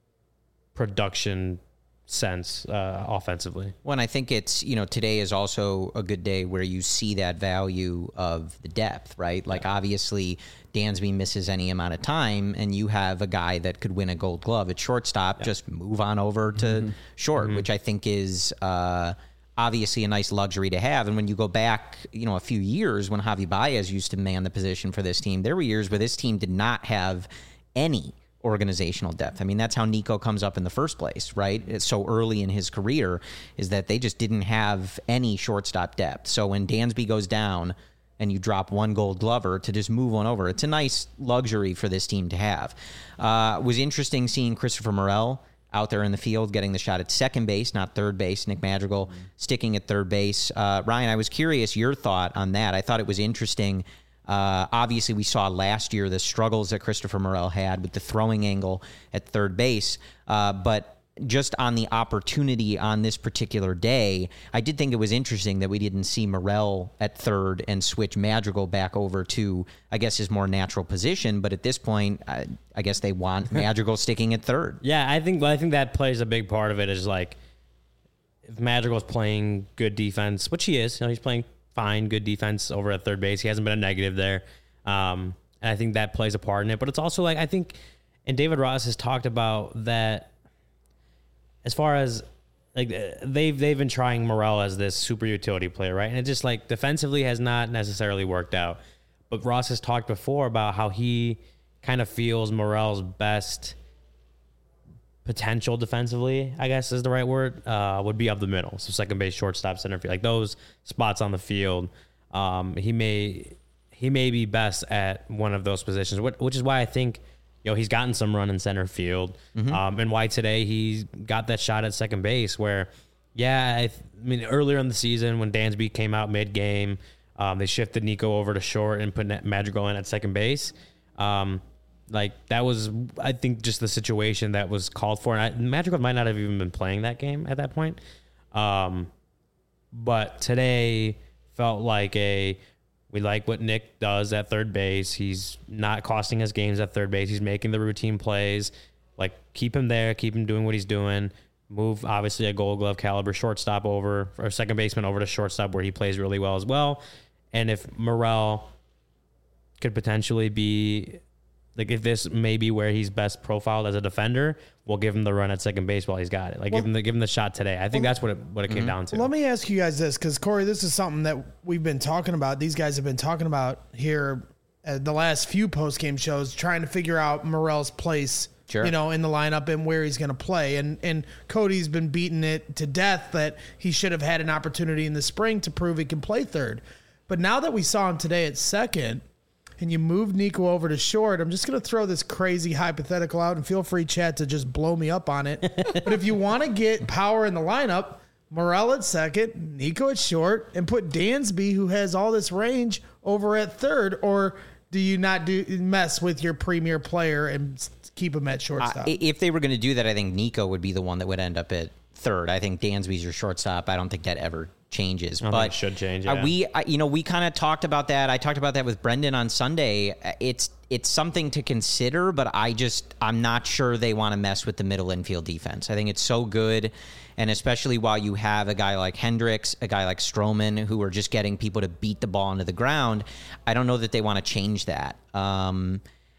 production sense uh, offensively. Well, and I think it's, you know, today is also a good day where you see that value of the depth, right? Like yeah. obviously Dansby misses any amount of time and you have a guy that could win a Gold Glove at shortstop, yeah. just move on over to mm-hmm. short, mm-hmm. which I think is uh, obviously a nice luxury to have. And when you go back, you know, a few years when Javi Baez used to man the position for this team, there were years where this team did not have any organizational depth. I mean, that's how Nico comes up in the first place, right? It's so early in his career is that they just didn't have any shortstop depth. So when Dansby goes down and you drop one Gold Glover to just move one over, it's a nice luxury for this team to have. Uh, it was interesting seeing Christopher Morel out there in the field getting the shot at second base, not third base. Nick Madrigal mm-hmm. sticking at third base. Uh, Ryan, I was curious your thought on that. I thought it was interesting. Uh, obviously, we saw last year the struggles that Christopher Morel had with the throwing angle at third base. Uh, but just on the opportunity on this particular day, I did think it was interesting that we didn't see Morel at third and switch Madrigal back over to, I guess, his more natural position. But at this point, I, I guess they want Madrigal sticking at third. Yeah, I think. Well, I think that plays a big part of it. Is like if Madrigal's playing good defense, which he is. You know, he's playing fine, good defense over at third base. He hasn't been a negative there. Um, and I think that plays a part in it. But it's also like, I think, and David Ross has talked about that as far as, like, they've they've been trying Morel as this super utility player, right? And it just, like, defensively has not necessarily worked out. But Ross has talked before about how he kind of feels Morel's best potential defensively, I guess is the right word, uh, would be up the middle. So second base, shortstop, center field, like those spots on the field. Um, he may he may be best at one of those positions, which is why I think, you know, he's gotten some run in center field, mm-hmm. um, and why today he got that shot at second base. Where, yeah, I, th- I mean, earlier in the season when Dansby came out mid game, um, they shifted Nico over to short and put Madrigal in at second base. Um, Like, that was, I think, just the situation that was called for. And I, Madrigal might not have even been playing that game at that point. Um, but today felt like a, we like what Nick does at third base. He's not costing us games at third base. He's making the routine plays. Like, keep him there. Keep him doing what he's doing. Move, obviously, a Gold Glove caliber shortstop over, or second baseman over to shortstop where he plays really well as well. And if Morel could potentially be... Like, if this may be where he's best profiled as a defender, we'll give him the run at second base while he's got it. Like, well, give him the give him the shot today. I think well, that's what it what it mm-hmm. came down to. Let me ask you guys this, because Corey, this is something that we've been talking about. These guys have been talking about here at the last few post game shows, trying to figure out Morel's place Sure. you know, in the lineup and where he's going to play. And and Cody's been beating it to death that he should have had an opportunity in the spring to prove he can play third. But now that we saw him today at second, and you moved Nico over to short, I'm just going to throw this crazy hypothetical out, and feel free, chat, to just blow me up on it. But if you want to get power in the lineup, Morel at second, Nico at short, and put Dansby, who has all this range, over at third, or do you not do mess with your premier player and keep him at shortstop? Uh, if they were going to do that, I think Nico would be the one that would end up at third. I think Dansby's your shortstop. I don't think that ever changes. I don't but think it should change. uh, Yeah. we, I, you know, we kind of talked about that. I talked about that with Brendan on Sunday. It's it's something to consider, but I just I'm not sure they want to mess with the middle infield defense. I think it's so good. And especially while you have a guy like Hendricks, a guy like Stroman, who are just getting people to beat the ball into the ground, I don't know that they want to change that. Um,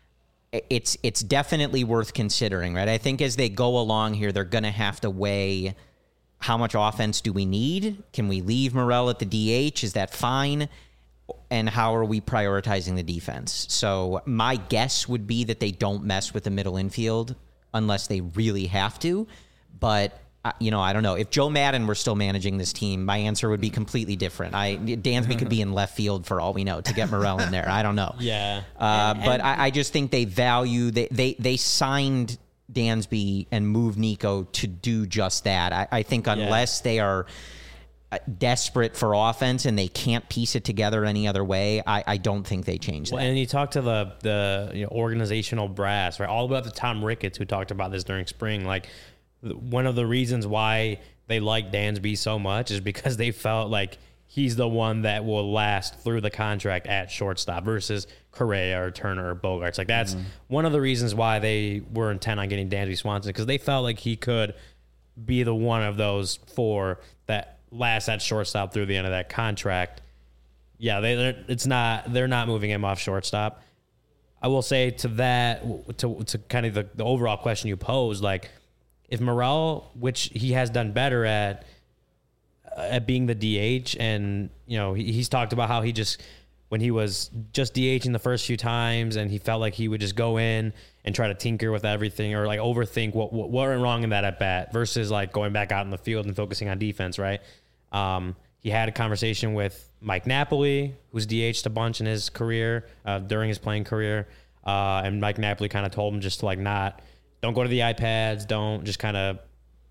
it's it's definitely worth considering, right? I think as they go along here, they're going to have to weigh how much offense do we need? Can we leave Morel at the D H? Is that fine? And how are we prioritizing the defense? So my guess would be that they don't mess with the middle infield unless they really have to. But you know, I don't know. If Joe Madden were still managing this team, my answer would be completely different. I Dansby could be in left field for all we know to get Morel in there. I don't know. Yeah. Uh, And- but and- I, I just think they value they they they signed Dansby and moved Nico to do just that. I, I think unless they are uh, desperate for offense and they can't piece it together any other way, I, I don't think they change that. Well, and you talk to the the you know, organizational brass, right? All about the Tom Ricketts, who talked about this during spring. Like, one of the reasons why they like Dansby so much is because they felt like he's the one that will last through the contract at shortstop versus Correa or Turner or Bogarts. Like, that's mm-hmm. one of the reasons why they were intent on getting Dansby Swanson, because they felt like he could be the one of those four that lasts at shortstop through the end of that contract. Yeah, they they're, it's not they're not moving him off shortstop. I will say to that to to kind of the, the overall question you posed, like, if Morel, which he has done better at, uh, at being the D H, and you know he, he's talked about how he just when he was just DHing the first few times, and he felt like he would just go in and try to tinker with everything or like overthink what what, what went wrong in that at bat versus like going back out in the field and focusing on defense, right? Um, he had a conversation with Mike Napoli, who's D H'd a bunch in his career uh, during his playing career, uh, and Mike Napoli kind of told him just to like not. Don't go to the iPads. Don't just kind of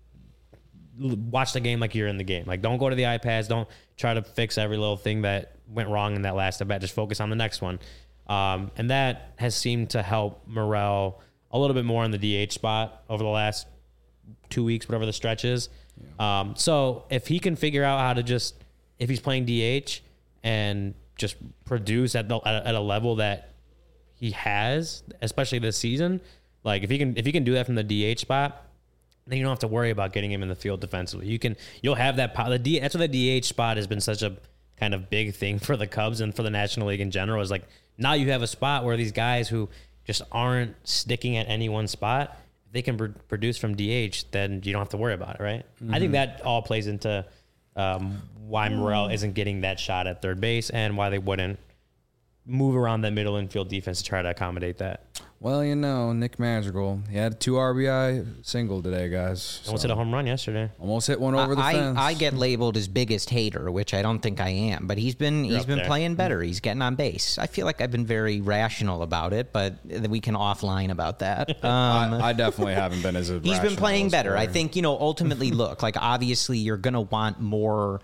watch the game like you're in the game. Like, don't go to the iPads. Don't try to fix every little thing that went wrong in that last at bat. Just focus on the next one. Um, and that has seemed to help Morel a little bit more in the D H spot over the last two weeks, whatever the stretch is. Yeah. Um, so if he can figure out how to just, if he's playing D H and just produce at the at a level that he has, especially this season. Like, if he can if he can do that from the D H spot, then you don't have to worry about getting him in the field defensively. You can you'll have that the D, that's why the D H spot has been such a kind of big thing for the Cubs and for the National League in general. Is like, now you have a spot where these guys who just aren't sticking at any one spot, if they can pr- produce from D H, then you don't have to worry about it, right? Mm-hmm. I think that all plays into um, why Morel isn't getting that shot at third base and why they wouldn't move around that middle infield defense to try to accommodate that. Well, you know, Nick Madrigal, he had a two R B I single today, guys. Almost so. hit a home run yesterday. Almost hit one over the I, fence. I get labeled as biggest hater, which I don't think I am, but he's been You're he's up been there. playing better. He's getting on base. I feel like I've been very rational about it, but we can offline about that. Um, I, I definitely haven't been as a He's been playing better. I think, you know, ultimately, look, like, obviously you're going to want more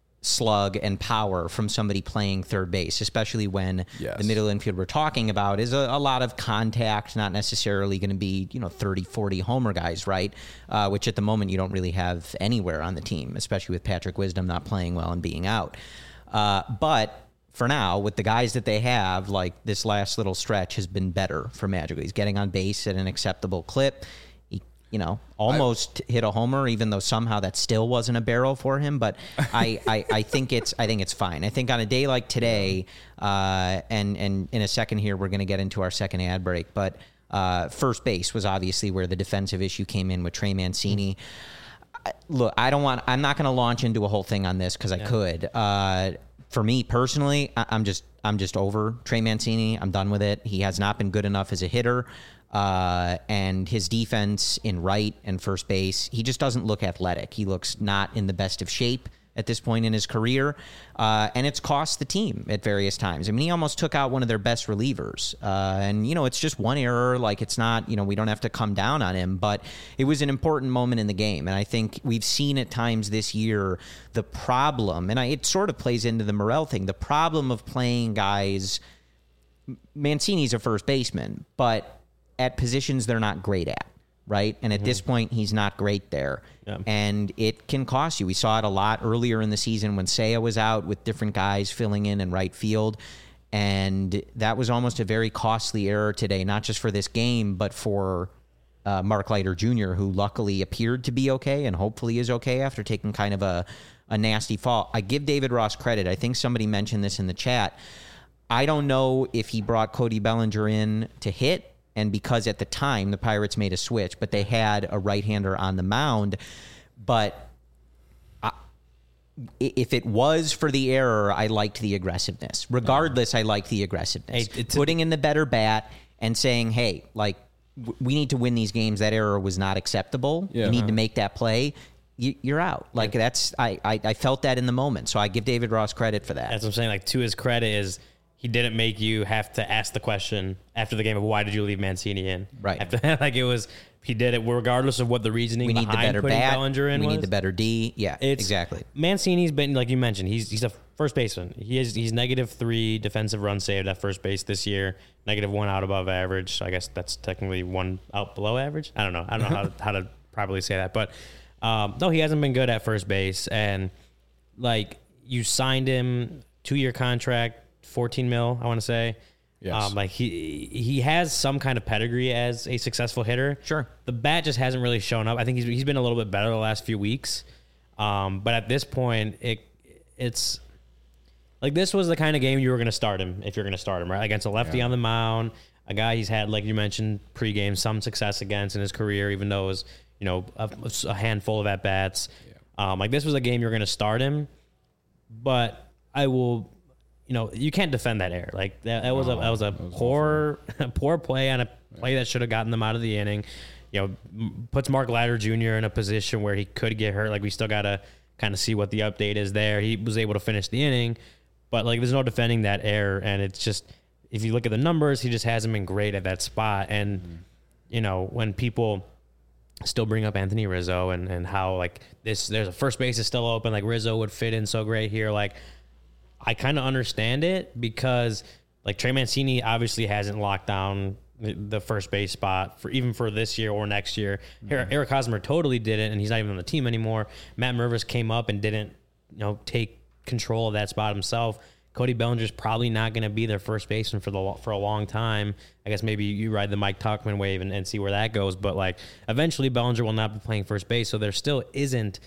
slug and power from somebody playing third base, especially when Yes. the middle infield we're talking about is a, a lot of contact, not necessarily going to be, you know, thirty, forty homer guys, right? Uh, which at the moment you don't really have anywhere on the team, especially with Patrick Wisdom not playing well and being out. Uh, but for now, with the guys that they have, like, this last little stretch has been better for Madrigal. He's getting on base at an acceptable clip. He, you know, almost I, hit a homer, even though somehow that still wasn't a barrel for him. But I, I, I think it's I think it's fine. I think on a day like today, uh, and and in a second here, we're going to get into our second ad break. But uh, first base was obviously where the defensive issue came in with Trey Mancini. I, look, I don't want. I'm not going to launch into a whole thing on this because I yeah. could. Uh, for me personally, I, I'm just I'm just over Trey Mancini. I'm done with it. He has not been good enough as a hitter. Uh, and his defense in right and first base, he just doesn't look athletic. He looks not in the best of shape at this point in his career, uh, and it's cost the team at various times. I mean, he almost took out one of their best relievers, uh, and, you know, it's just one error. Like, it's not, you know, we don't have to come down on him, but it was an important moment in the game, and I think we've seen at times this year the problem, and I, it sort of plays into the Morel thing, the problem of playing guys. Mancini's a first baseman, but at positions they're not great at. Right. And at mm-hmm. this point, he's not great there. Yeah. And it can cost you. We saw it a lot earlier in the season when Seiya was out with different guys filling in in right field. And that was almost a very costly error today, not just for this game, but for uh, Mark Leiter Junior, who luckily appeared to be okay and hopefully is okay after taking kind of a, a nasty fall. I give David Ross credit. I think somebody mentioned this in the chat. I don't know if he brought Cody Bellinger in to hit, and because at the time the Pirates made a switch, but they had a right-hander on the mound. But I, if it was for the error, I liked the aggressiveness. Regardless, I liked the aggressiveness. Hey, Putting in the better bat and saying, hey, like, w- we need to win these games. That error was not acceptable. Yeah. You need uh-huh. to make that play. You, you're out. Like, yeah. that's I, I, I felt that in the moment. So I give David Ross credit for that. That's what I'm saying. Like, to his credit is he didn't make you have to ask the question after the game of why did you leave Mancini in? Right. After, like it was, he did it regardless of what the reasoning we need behind the better putting bat. Bellinger in we was. need the better D. Yeah, it's, exactly. Mancini's been, like you mentioned, he's he's a first baseman. He is he's negative three defensive runs saved at first base this year, negative one out above average. So I guess that's technically one out below average. I don't know. I don't know how to, how to properly say that, but um, no, he hasn't been good at first base. And like you signed him two year contract. fourteen mil, I want to say. Yes. Um, like he he has some kind of pedigree as a successful hitter. Sure. The bat just hasn't really shown up. I think he's he's been a little bit better the last few weeks. Um, but at this point, it it's like this was the kind of game you were going to start him if you're going to start him, right? Against a lefty yeah. on the mound, a guy he's had, like you mentioned, pregame, some success against in his career, even though it was, you know, a, a handful of at bats. Yeah. Um, like this was a game you're going to start him, but I will. You know, you can't defend that error. Like that, that was a that was a that was poor poor play on a play that should have gotten them out of the inning. You know, puts Mark Leiter Junior in a position where he could get hurt. Like we still gotta kind of see what the update is there. He was able to finish the inning, but like there's no defending that error. And it's just if you look at the numbers, he just hasn't been great at that spot. And mm-hmm. you know, when people still bring up Anthony Rizzo and and how like this there's a first base is still open, like Rizzo would fit in so great here, like. I kind of understand it because, like, Trey Mancini obviously hasn't locked down the first base spot for even for this year or next year. Mm-hmm. Eric Hosmer totally didn't, and he's not even on the team anymore. Matt Mervis came up and didn't, you know, take control of that spot himself. Cody Bellinger's probably not going to be their first baseman for the for a long time. I guess maybe you ride the Mike Tauchman wave and, and see where that goes. But, like, eventually Bellinger will not be playing first base, so there still isn't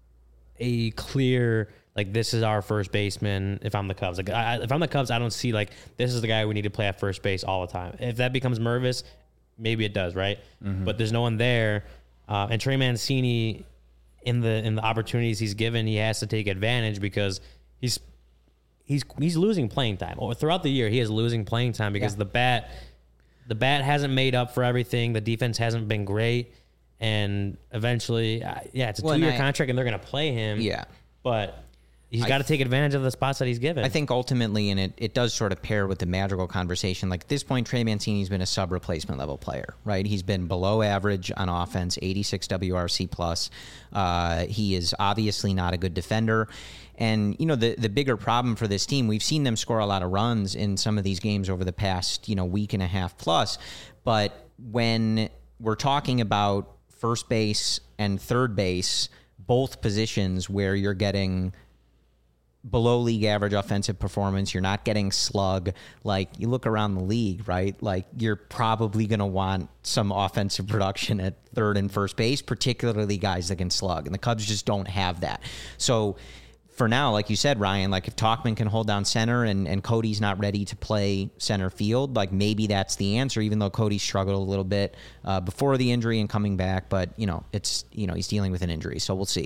a clear – like, this is our first baseman if I'm the Cubs. Like, I, if I'm the Cubs, I don't see, like, this is the guy we need to play at first base all the time. If that becomes Mervis, maybe it does, right? Mm-hmm. But there's no one there. Uh, and Trey Mancini, in the in the opportunities he's given, he has to take advantage because he's he's he's losing playing time. Or throughout the year, he is losing playing time because yeah. the bat the bat hasn't made up for everything. The defense hasn't been great. And eventually, uh, yeah, it's a well, two-year I, contract, and they're going to play him. Yeah. But... He's got to take advantage of the spots that he's given. I think ultimately, and it, it does sort of pair with the Madrigal conversation, like at this point, Trey Mancini's been a sub-replacement level player, right? He's been below average on offense, eighty-six W R C plus. Uh, he is obviously not a good defender. And, you know, the, the bigger problem for this team, we've seen them score a lot of runs in some of these games over the past, you know, week and a half plus. But when we're talking about first base and third base, both positions where you're getting below league average offensive performance, you're not getting slug. Like, you look around the league, right? Like, you're probably going to want some offensive production at third and first base, particularly guys that can slug. And the Cubs just don't have that. So for now, like you said, Ryan, like if Tauchman can hold down center and, and Cody's not ready to play center field, like maybe that's the answer, even though Cody struggled a little bit uh, before the injury and coming back. But, you know, it's, you know, he's dealing with an injury, so we'll see.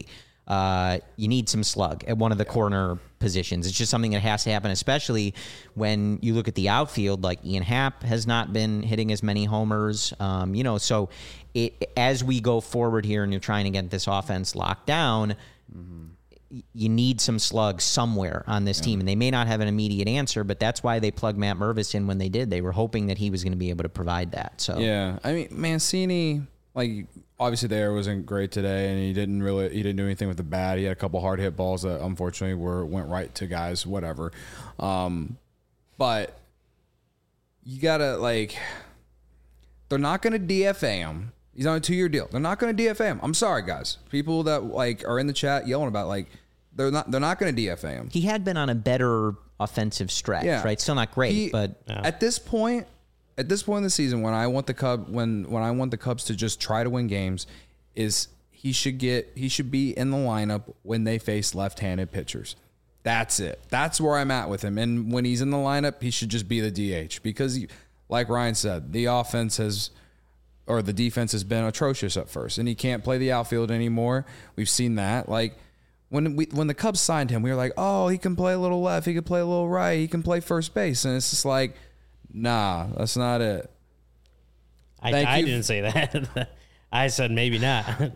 uh, you need some slug at one of the corner positions. It's just something that has to happen, especially when you look at the outfield. Like Ian Happ has not been hitting as many homers, um, you know. So it, as we go forward here, and you're trying to get this offense locked down, mm-hmm. you need some slugs somewhere on this yeah. team, and they may not have an immediate answer, but that's why they plugged Matt Mervis in when they did. They were hoping that he was going to be able to provide that. So yeah, I mean Mancini, like. Obviously, the air wasn't great today, and he didn't really he didn't do anything with the bat. He had a couple hard hit balls that unfortunately were went right to guys, whatever. Um, but you gotta like, they're not gonna D F A him. He's on a two year deal. They're not gonna D F A him. I'm sorry, guys. People that like are in the chat yelling about like they're not they're not gonna D F A him. He had been on a better offensive stretch, yeah. right? Still not great, he, but yeah. at this point. At this point in the season, when I want the Cub, when when I want the Cubs to just try to win games, is he should get he should be in the lineup when they face left-handed pitchers. That's it. That's where I'm at with him. And when he's in the lineup, he should just be the D H because, he, like Ryan said, the offense has or the defense has been atrocious at first, and he can't play the outfield anymore. We've seen that. Like when we when the Cubs signed him, we were like, oh, he can play a little left, he can play a little right, he can play first base, and it's just like. Nah, that's not it. I, I didn't say that. I said maybe not. Do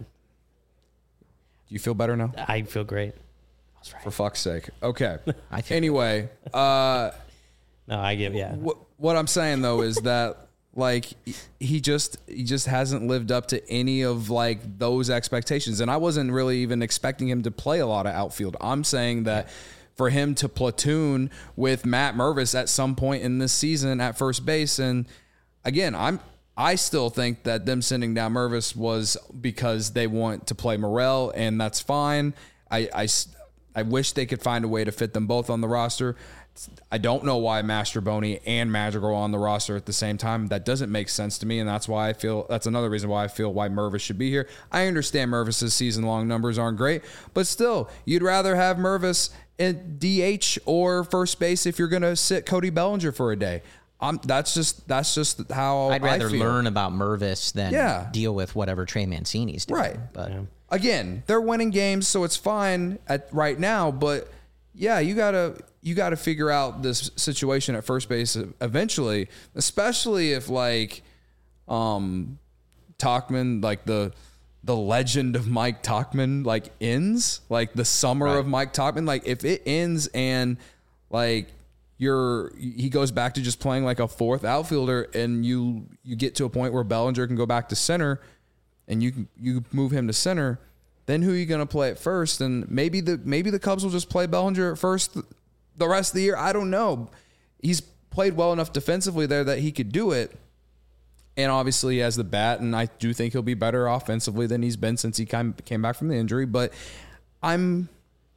you feel better now? I feel great. I was right. For fuck's sake. Okay. Anyway, uh, no, I give yeah. What, what I'm saying though is that like he just he just hasn't lived up to any of like those expectations, and I wasn't really even expecting him to play a lot of outfield. I'm saying that. For him to platoon with Matt Mervis at some point in this season at first base. And again, I'm, I still think that them sending down Mervis was because they want to play Morel, and that's fine. I, I, I wish they could find a way to fit them both on the roster. I don't know why Mastroboni and Madrigal are on the roster at the same time. That doesn't make sense to me, and that's why I feel that's another reason why I feel why Mervis should be here. I understand Mervis's season-long numbers aren't great, but still, you'd rather have Mervis in D H or first base if you're going to sit Cody Bellinger for a day. I'm, that's just that's just how I'd rather I feel. learn about Mervis than yeah. deal with whatever Trey Mancini's doing. Right. But yeah. Again, they're winning games, so it's fine at right now. But yeah, you gotta you gotta figure out this situation at first base eventually, especially if like um, Tauchman, like the. the legend of Mike Tauchman like ends, like the summer right. of Mike Tauchman. Like if it ends and like you're, he goes back to just playing like a fourth outfielder and you, you get to a point where Bellinger can go back to center and you can, you move him to center, then who are you going to play at first? And maybe the, maybe the Cubs will just play Bellinger at first the rest of the year. I don't know. He's played well enough defensively there that he could do it. And obviously he has the bat, and I do think he'll be better offensively than he's been since he came came back from the injury. But I'm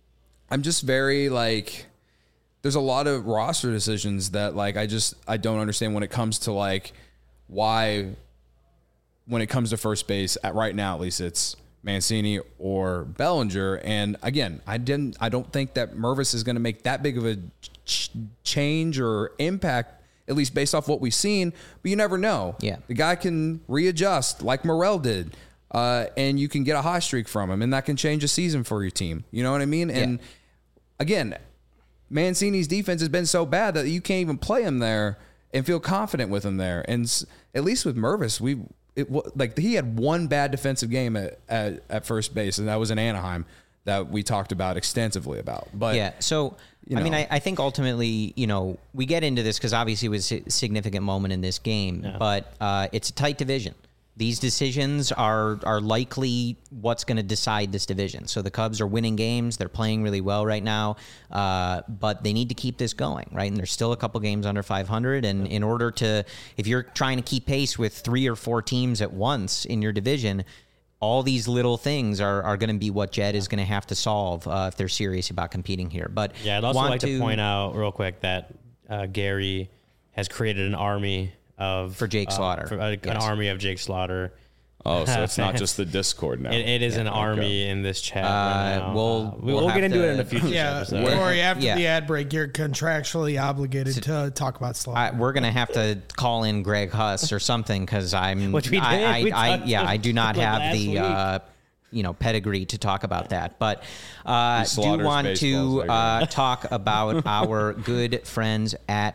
I'm just very like there's a lot of roster decisions that like I just I don't understand when it comes to like why when it comes to first base at right now at least it's Mancini or Bellinger. And again, I didn't I don't think that Mervis is going to make that big of a ch- change or impact. At least based off what we've seen, but you never know. Yeah. The guy can readjust like Morel did, uh, and you can get a hot streak from him, and that can change a season for your team. You know what I mean? And yeah. again, Mancini's defense has been so bad that you can't even play him there and feel confident with him there. And at least with Mervis, we it like he had one bad defensive game at, at, at first base, and that was in Anaheim that we talked about extensively about. But yeah, so you know. I mean, I, I think ultimately, you know, we get into this because obviously it was a significant moment in this game, yeah. but uh, it's a tight division. These decisions are are likely what's going to decide this division. So the Cubs are winning games; they're playing really well right now, uh, but they need to keep this going, right? And there's still a couple games under five hundred, and in order to, if you're trying to keep pace with three or four teams at once in your division. All these little things are, are going to be what Jed is going to have to solve uh, if they're serious about competing here. But yeah, I'd also like to, to point out real quick that uh, Gary has created an army of for Jake Slaughter, uh, for, uh, yes. an army of Jake Slaughter. Oh, so it's not just the Discord now. It, it is yeah, an okay. army in this chat. Uh, right now. We'll, uh, we'll, we'll get into to, it in a future yeah, episode. Corey, after yeah. the ad break, you're contractually obligated so, to talk about Slaughter. I, we're going to have to call in Greg Huss or something because I'm. Which we did. I, I, we I, yeah, I do not like have the. Uh, you know, pedigree to talk about that. But uh, He do slaughters want to baseballs, uh, talk about our good friends at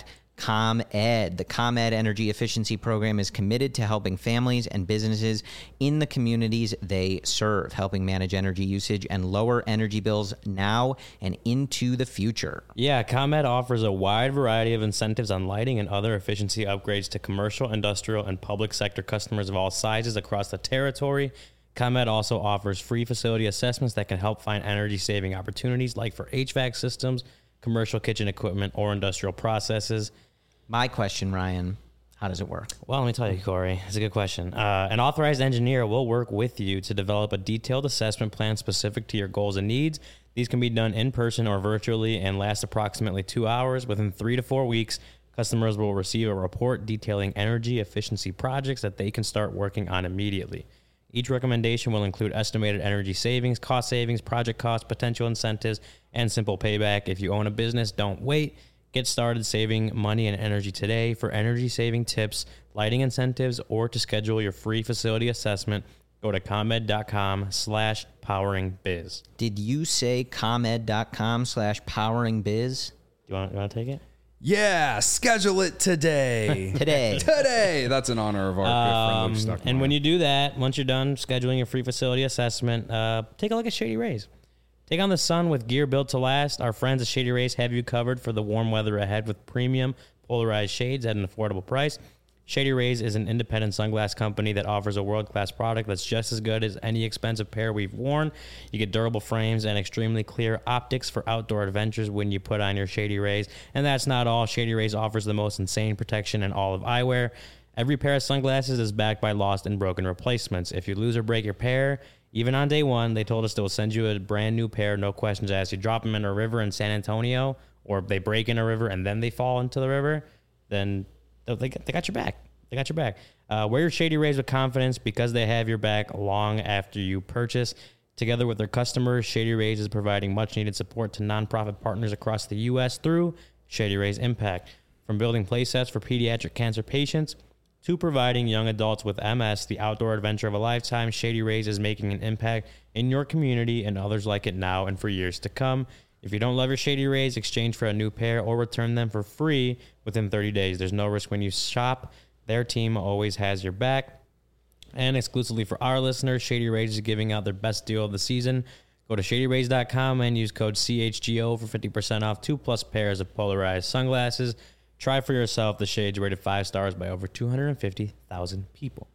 ComEd. The ComEd Energy Efficiency Program is committed to helping families and businesses in the communities they serve, helping manage energy usage and lower energy bills now and into the future. Yeah, ComEd offers a wide variety of incentives on lighting and other efficiency upgrades to commercial, industrial, and public sector customers of all sizes across the territory. ComEd also offers free facility assessments that can help find energy-saving opportunities like for H V A C systems, commercial kitchen equipment, or industrial processes. My question, Ryan, how does it work? Well, let me tell you, Corey. It's a good question. Uh, an authorized engineer will work with you to develop a detailed assessment plan specific to your goals and needs. These can be done in person or virtually and last approximately two hours. Within three to four weeks, customers will receive a report detailing energy efficiency projects that they can start working on immediately. Each recommendation will include estimated energy savings, cost savings, project costs, potential incentives, and simple payback. If you own a business, don't wait. Get started saving money and energy today. For energy-saving tips, lighting incentives, or to schedule your free facility assessment, go to ComEd.com slash poweringbiz. Did you say ComEd.com slash poweringbiz? Do you want, you want to take it? Yeah, schedule it today. Today. Today. That's in honor of our good friend Luke Um, Stuckmeyer. and when you do that, once you're done scheduling your free facility assessment, uh, take a look at Shady Rays. Take on the sun with gear built to last. Our friends at Shady Rays have you covered for the warm weather ahead with premium polarized shades at an affordable price. Shady Rays is an independent sunglass company that offers a world-class product that's just as good as any expensive pair we've worn. You get durable frames and extremely clear optics for outdoor adventures when you put on your Shady Rays. And that's not all. Shady Rays offers the most insane protection in all of eyewear. Every pair of sunglasses is backed by lost and broken replacements. If you lose or break your pair, even on day one, they told us they will send you a brand new pair, no questions asked. You drop them in a river in San Antonio, or they break in a river and then they fall into the river, then they, they got your back. They got your back. Uh, wear your Shady Rays with confidence because they have your back long after you purchase. Together with their customers, Shady Rays is providing much-needed support to nonprofit partners across the U S through Shady Rays Impact. From building playsets for pediatric cancer patients to providing young adults with M S the outdoor adventure of a lifetime, Shady Rays is making an impact in your community and others like it now and for years to come. If you don't love your Shady Rays, exchange for a new pair or return them for free within thirty days. There's no risk when you shop. Their team always has your back. And exclusively for our listeners, Shady Rays is giving out their best deal of the season. Go to shady rays dot com and use code C H G O for fifty percent off two plus pairs of polarized sunglasses. Try for yourself. The shades rated five stars by over two hundred fifty thousand people.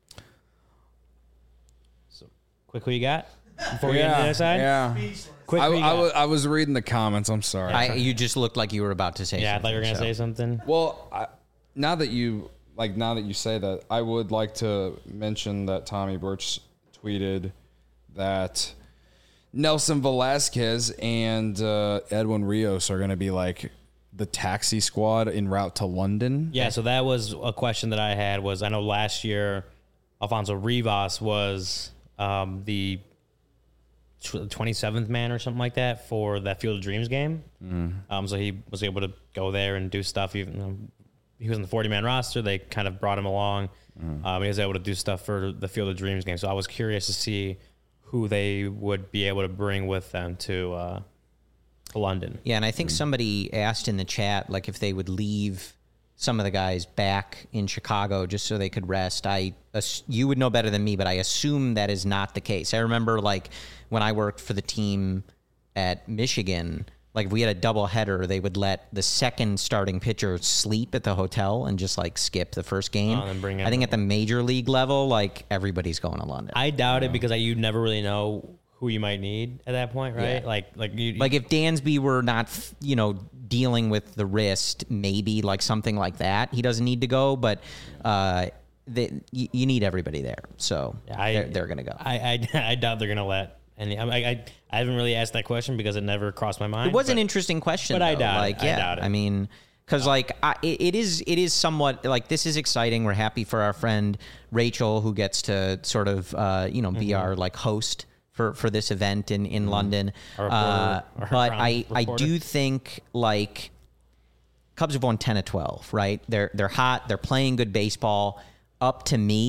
So, quick, who you got before we get to the other side? Yeah. Quick, I, who you I, got? was, I was reading the comments. I'm sorry. I, you just looked like you were about to say yeah, I something. thought you were going to so. say something. Well, I, now that you like, now that you say that, I would like to mention that Tommy Birch tweeted that Nelson Velasquez and uh, Edwin Rios are going to be like the taxi squad en route to London. Yeah, so that was a question that I had. Was I know last year Alfonso Rivas was um, the twenty-seventh man or something like that for that Field of Dreams game. Mm. Um, so he was able to go there and do stuff. Even though he was in the forty-man roster, they kind of brought him along. Mm. Um, he was able to do stuff for the Field of Dreams game. So I was curious to see who they would be able to bring with them to uh, London. Yeah, and I think somebody asked in the chat, like, if they would leave some of the guys back in Chicago just so they could rest. I, you would know better than me, but I assume that is not the case. I remember, like, when I worked for the team at Michigan, like, if we had a doubleheader, they would let the second starting pitcher sleep at the hotel and just, like, skip the first game. Oh, and then bring in I think at the major league level, like, everybody's going to London. I doubt it because I, you never really know who you might need at that point, right? Yeah. Like, like you, Like if Dansby were not, you know, dealing with the wrist, maybe like something like that, he doesn't need to go. But uh, they, you, you need everybody there, so I, they're, they're gonna go. I, I, I doubt they're gonna let any. I, I I haven't really asked that question because it never crossed my mind. It was but, an interesting question, but though. I doubt it. like, I yeah, doubt it. I mean, because like I, it, it is, it is somewhat like this is exciting. We're happy for our friend Rachel who gets to sort of, uh, you know, be Mm-hmm. our like host for, for this event in, in Mm-hmm. London. Our reporter, Uh, our but ground I, I reporter. do think like Cubs have won ten of twelve, right? They're, they're hot. They're playing good baseball. Up to me,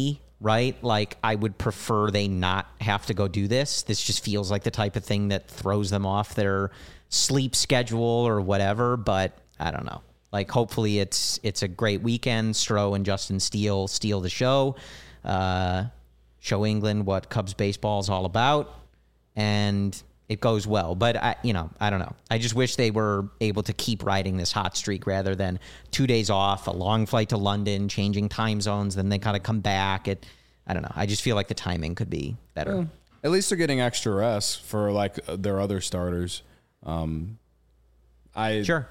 right? Like, I would prefer they not have to go do this. This just feels like the type of thing that throws them off their sleep schedule or whatever, but I don't know. Like, hopefully it's it's a great weekend. Stroh and Justin Steele steal the show, uh, show England what Cubs baseball is all about, and it goes well. But, I, you know, I don't know. I just wish they were able to keep riding this hot streak rather than two days off, a long flight to London, changing time zones, then they kind of come back. It, I don't know. I just feel like the timing could be better. Well, at least they're getting extra rest for, like, their other starters. Um, I Sure.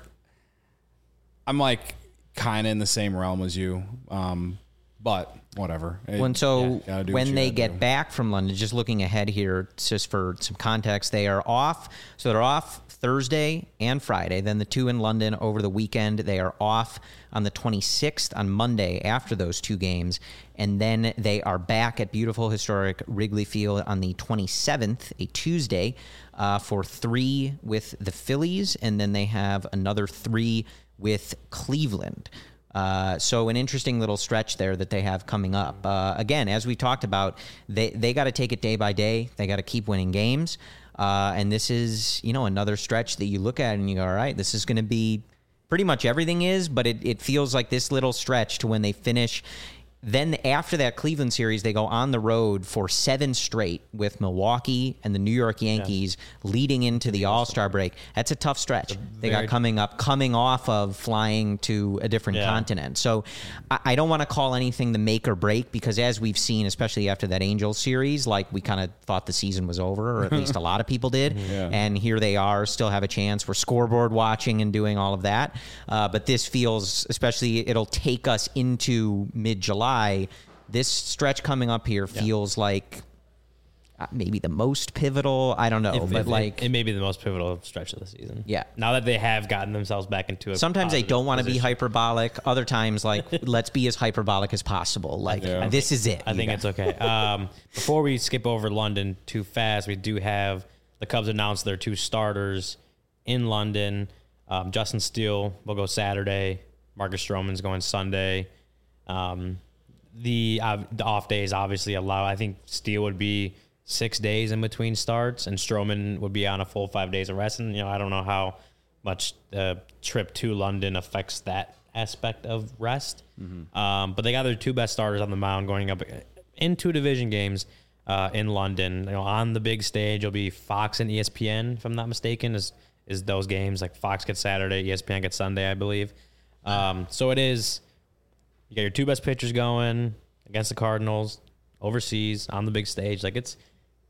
I'm, like, kind of in the same realm as you, um, but whatever. When so Yeah, when they get do. back from London, just looking ahead here, just for some context, they are off. So they're off Thursday and Friday. Then the two in London over the weekend. They are off on the twenty-sixth on Monday after those two games, and then they are back at beautiful historic Wrigley Field on the twenty-seventh, a Tuesday, uh, for three with the Phillies, and then they have another three with Cleveland. Uh, so an interesting little stretch there that they have coming up. Uh, again, as we talked about, they, they got to take it day by day. They got to keep winning games. Uh, and this is, you know, another stretch that you look at and you go, all right, this is going to be pretty much everything is, but it, it feels like this little stretch to when they finish. Then after that Cleveland series, they go on the road for seven straight with Milwaukee and the New York Yankees yeah. leading into the All-Star break. That's a tough stretch they got coming up, coming off of flying to a different yeah. continent. So I, I don't want to call anything the make or break because as we've seen, especially after that Angels series, like we kind of thought the season was over, or at least a lot of people did. Yeah. And here they are, still have a chance. We're scoreboard watching and doing all of that. Uh, but this feels, especially it'll take us into mid-July. This stretch coming up here feels yeah. like uh, maybe the most pivotal. I don't know, if, but if, like it, it may be the most pivotal stretch of the season. Yeah. Now that they have gotten themselves back into a sometimes they don't want to be position. hyperbolic. Other times, like let's be as hyperbolic as possible. Like yeah. this think, is it. I think know? it's okay. Um, before we skip over London too fast, we do have the Cubs announce their two starters in London. Um, Justin Steele will go Saturday. Marcus Stroman's going Sunday. Um, The, uh, the off days obviously allow. I think Steele would be six days in between starts, and Stroman would be on a full five days of rest. And you know, I don't know how much the trip to London affects that aspect of rest. Mm-hmm. Um, but they got their two best starters on the mound going up in two division games uh, in London. You know, on the big stage, it'll be Fox and E S P N, if I'm not mistaken. Is is those games like Fox gets Saturday, E S P N gets Sunday, I believe. Um, so it is. You got your two best pitchers going against the Cardinals overseas on the big stage. Like it's,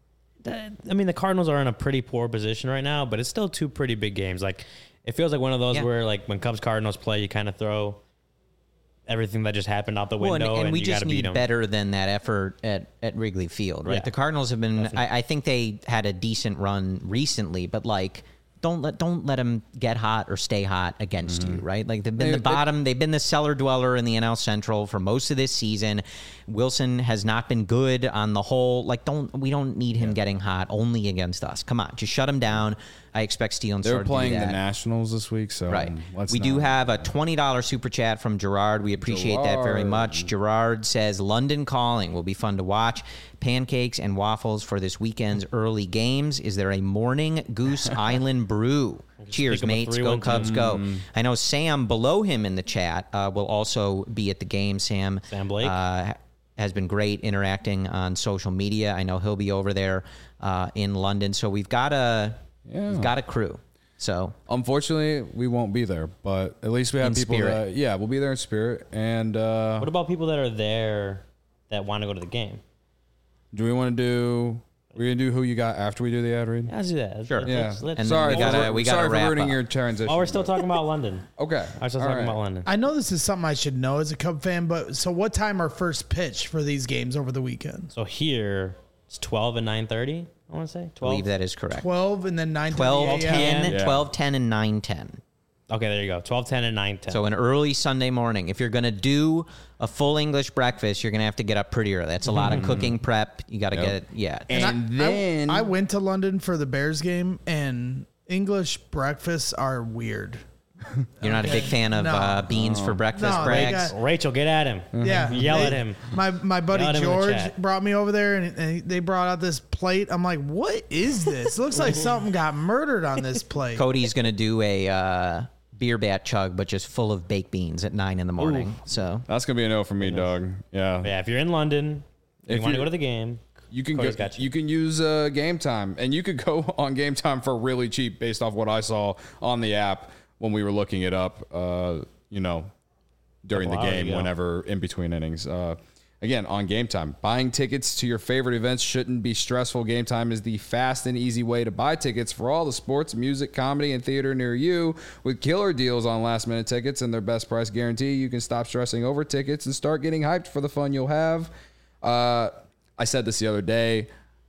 I mean, the Cardinals are in a pretty poor position right now, but it's still two pretty big games. Like it feels like one of those yeah. where like when Cubs Cardinals play, you kind of throw everything that just happened out the window, well, and, and, and we you just need them. better than that effort at, at Wrigley Field, right? Yeah. The Cardinals have been. I, I think they had a decent run recently, but like. Don't let don't let them get hot or stay hot against mm-hmm. you, right? Like they've been they, the bottom, they, they've been the cellar dweller in the N L Central for most of this season. Wilson has not been good on the whole. Like don't we don't need him yeah. getting hot only against us. Come on, just shut him down. I expect Steele and They're Stroman playing to do that. the Nationals this week, so right. Let's we not. do have a twenty dollars super chat from Gerard. We appreciate Gerard. that very much. Gerard says London Calling will be fun to watch. Pancakes and waffles for this weekend's early games. Is there a morning Goose Island brew? Cheers, mates. Go Cubs, go. I know Sam below him in the chat uh, will also be at the game. Sam, Sam Blake uh, has been great interacting on social media. I know he'll be over there uh, in London. So we've got a yeah. we've got a crew. So unfortunately, we won't be there, but at least we have in people spirit. that yeah, we'll be there in spirit. And uh, what about people that are there that want to go to the game? Do we want to do? We're gonna do who you got after we do the ad read. Yeah, let's do that. Sure. Let's, yeah. Let's, let's, and sorry, we gotta, we gotta sorry wrap for ruining up. your transition. Oh, we're still talking about London. Okay. I was still All talking right. about London. I know this is something I should know as a Cub fan, but so what time are first pitch for these games over the weekend? So here it's twelve and nine thirty. I want to say I twelve. believe that is correct. Twelve and then nine. twelve ten, Yeah. twelve ten, and nine ten. Okay, there you go. twelve ten and nine ten. So an early Sunday morning. If you're going to do a full English breakfast, you're going to have to get up pretty early. That's a lot of cooking prep. You got to Yep. get it. Yeah. And, I, then I, I went to London for the Bears game, and English breakfasts are weird. You're not a big fan of No. uh, beans for breakfast, No, they Brags? got- Rachel, get at him. Yeah, Yell they- at him. My my buddy Yell at him in the George chat. brought me over there, and, and they brought out this plate. I'm like, what is this? Looks like something got murdered on this plate. Cody's going to do a uh, beer bat chug, but just full of baked beans at nine in the morning. So That's gonna be a no for me, Doug. Yeah. Yeah, if you're in London, If you want to you're- go to the game. You can Cody's go, got you. you can use uh, Game Time, and you could go on Game Time for really cheap, based off what I saw on the app when we were looking it up. Uh, you know, during the Couple hours game, ago. whenever in between innings. Uh, again, on Game Time, buying tickets to your favorite events shouldn't be stressful. Game Time is the fast and easy way to buy tickets for all the sports, music, comedy, and theater near you. With killer deals on last minute tickets and their best price guarantee, you can stop stressing over tickets and start getting hyped for the fun you'll have. Uh, I said this the other day.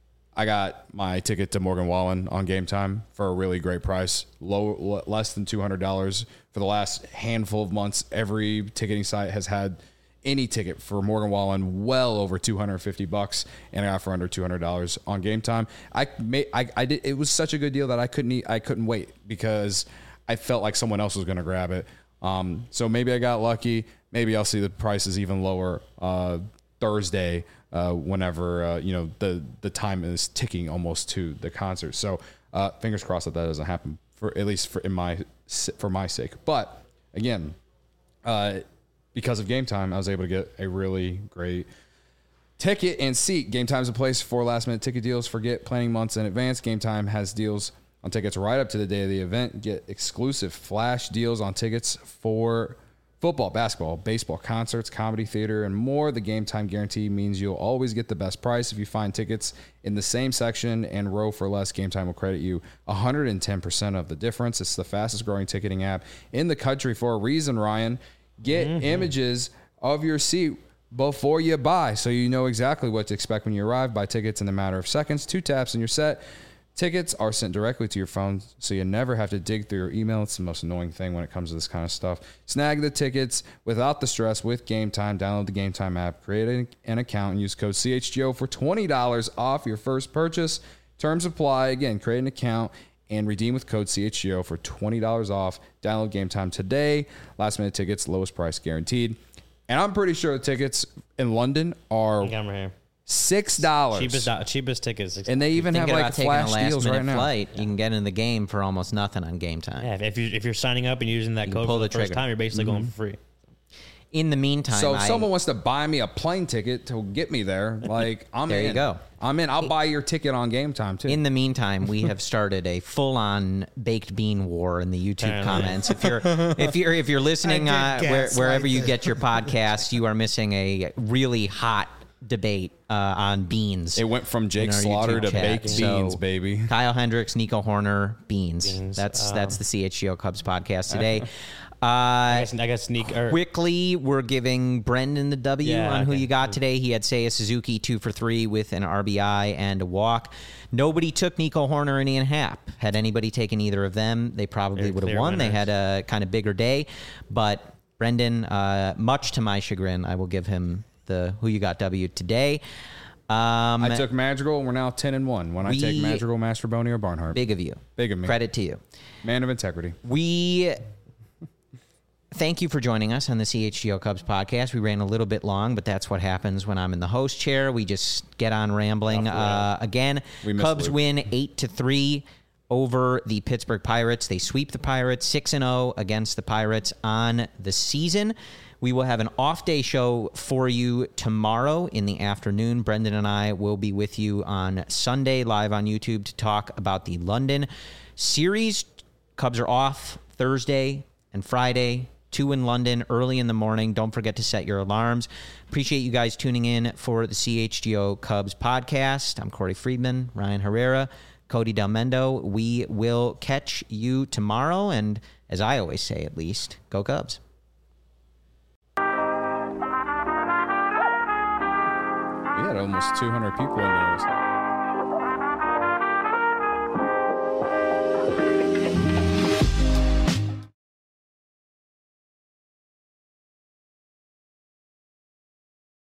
I got my ticket to Morgan Wallen on Game Time for a really great price, low, l- less than two hundred dollars for the last handful of months. Every ticketing site has had any ticket for Morgan Wallen well over two hundred fifty bucks, and I got for under two hundred dollars on Game Time. I made, I, I did. It was such a good deal that I couldn't, eat, I couldn't wait because I felt like someone else was going to grab it. Um, so maybe I got lucky. Maybe I'll see the prices even lower uh, Thursday. Uh, whenever uh, you know the the time is ticking almost to the concert, so uh, fingers crossed that that doesn't happen for at least for in my for my sake. But again, uh, because of Game Time, I was able to get a really great ticket and seat. Game Time is a place for last minute ticket deals. Forget planning months in advance. Game Time has deals on tickets right up to the day of the event. Get exclusive flash deals on tickets for football, basketball, baseball, concerts, comedy, theater, and more. The Game Time guarantee means you'll always get the best price. If you find tickets in the same section and row for less, Game Time will credit you one hundred ten percent of the difference. It's the fastest growing ticketing app in the country for a reason, Ryan. Get mm-hmm. images of your seat before you buy, so you know exactly what to expect when you arrive. Buy tickets in a matter of seconds. Two taps and you're set. Tickets are sent directly to your phone, so you never have to dig through your email. It's the most annoying thing when it comes to this kind of stuff. Snag the tickets without the stress with Game Time. Download the Game Time app, create an account, and use code C H G O for twenty dollars off your first purchase. Terms apply. Again, create an account and redeem with code C H G O for twenty dollars off. Download Game Time today. Last minute tickets, lowest price guaranteed. And I'm pretty sure the tickets in London are Camera here. six dollars. Cheapest cheapest tickets. And they even have thinking like about taking a flash last deals minute right now. flight, you can get in the game for almost nothing on Game Time. Yeah, if you if you're signing up and using that You code pull for the, the first trigger. time, you're basically going for free. In the meantime, So if I, someone wants to buy me a plane ticket to get me there, like I'm There in. you go. I'm in. I'll buy your ticket on Game Time too. in the meantime, we have started a full-on baked bean war in the YouTube Apparently. comments. If you're if you're if you're listening I uh, did where, gaslight wherever you this. get your podcasts, you are missing a really hot debate uh, on beans. it went from Jake in our Slaughter YouTube to chat. baked So, beans, baby. Kyle Hendricks, Nico Horner, beans. Beans. That's Um, that's the C H G O Cubs podcast today. I Uh, guess, I guess sneak. Or, quickly, we're giving Brendan the W Yeah, on who okay. you got today. He had Seiya Suzuki two for three with an R B I and a walk. Nobody took Nico Horner and Ian Happ. Had anybody taken either of them, they probably They're would have clear won. They winners. had a kind of bigger day. But Brendan, uh, much to my chagrin, I will give him the who you got W today. Um, I took Madrigal, and we're now ten and one. When I take we- Madrigal, Mastroboni, or Barnhart, big of you. Big of me. Credit to you. Man of integrity. We thank you for joining us on the C H G O Cubs podcast. We ran a little bit long, but that's what happens when I'm in the host chair. We just get on rambling. Uh, again, We miss Cubs Luke. win eight to three over the Pittsburgh Pirates. They sweep the Pirates six and zero against the Pirates on the season. We will have an off day show for you tomorrow in the afternoon. Brendan and I will be with you on Sunday live on YouTube to talk about the London series. Cubs are off Thursday and Friday, two in London early in the morning. Don't forget to set your alarms. Appreciate you guys tuning in for the C H G O Cubs podcast. I'm Corey Friedman, Ryan Herrera, Cody Del Mendo. We will catch you tomorrow. And as I always say, at least, go Cubs. We had almost two hundred people in there.